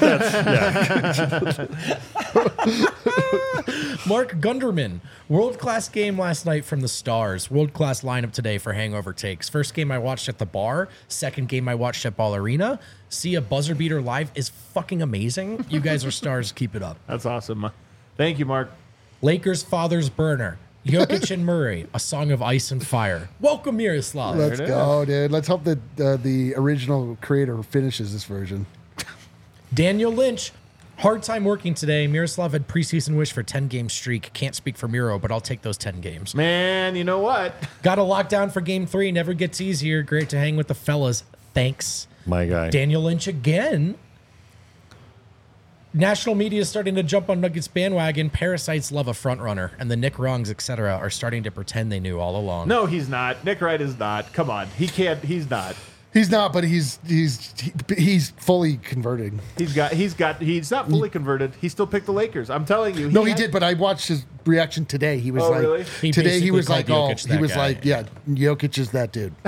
Mark Gunderman. World-class game last night from the Stars. World-class lineup today for Hangover Takes. First game I watched at the bar. Second game I watched at Ball Arena. See a buzzer beater live is fucking amazing. You guys are stars. Keep it up. That's awesome. Thank you, Mark. Lakers' father's burner. Jokic and Murray. A song of ice and fire. Welcome, Miroslav. Let's it go, dude. Let's hope that the original creator finishes this version. Daniel Lynch. Hard time working today. Miroslav had preseason wish for 10-game streak. Can't speak for Miro, but I'll take those 10 games. Man, you know what? Got a lockdown for game 3. Never gets easier. Great to hang with the fellas. Thanks. My guy. Daniel Lynch again. National media is starting to jump on Nuggets bandwagon. Parasites love a front runner, and the Nick Wrongs, etc., are starting to pretend they knew all along. No, he's not. Nick Wright is not. Come on, he can't. He's not. He's not, but he's fully converted. He's not fully converted. He still picked the Lakers. I'm telling you. He did, but I watched his reaction today. He was Oh, like, really? He today he basically was like, called oh, Jokic he that was guy. like, yeah, Jokic is that dude.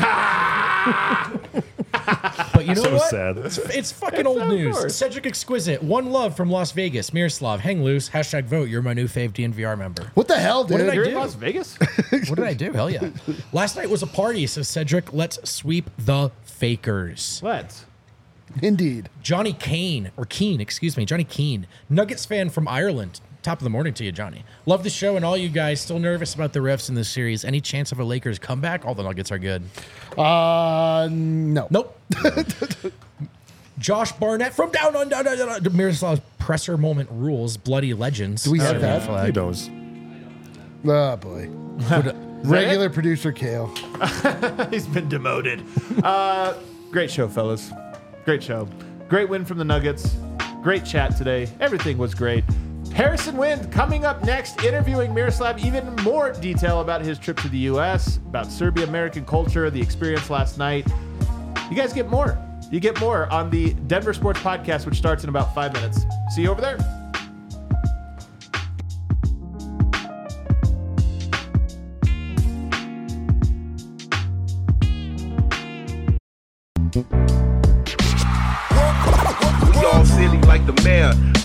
But you know So what? sad. It's fucking old of news. course. Cedric Exquisite, one love from Las Vegas. Miroslav, hang loose. # vote. You're my new fave DNVR member. What the hell, dude? did I You're do? in Las Vegas. What did I do? Hell yeah. Last night was a party, so Cedric, let's sweep the fakers. Let's. Indeed. Johnny Kane, or Keane, excuse me, Johnny Keane, Nuggets fan from Ireland. Top of the morning to you, Johnny. Love the show and all you guys. Still nervous about the refs in this series. Any chance of a Lakers comeback? All the Nuggets are good. No. Nope. Josh Barnett from down on Miroslav's presser moment rules. Bloody legends. Do we have that? He knows. Oh, boy. Regular producer Kale. He's been demoted. Great show, fellas. Great show. Great win from the Nuggets. Great chat today. Everything was great. Harrison Wind coming up next, interviewing Miroslav, even more detail about his trip to the U.S., about Serbia-American culture, the experience last night. You guys get more. You get more on the Denver Sports Podcast, which starts in about 5 minutes. See you over there. We all silly like the mayor.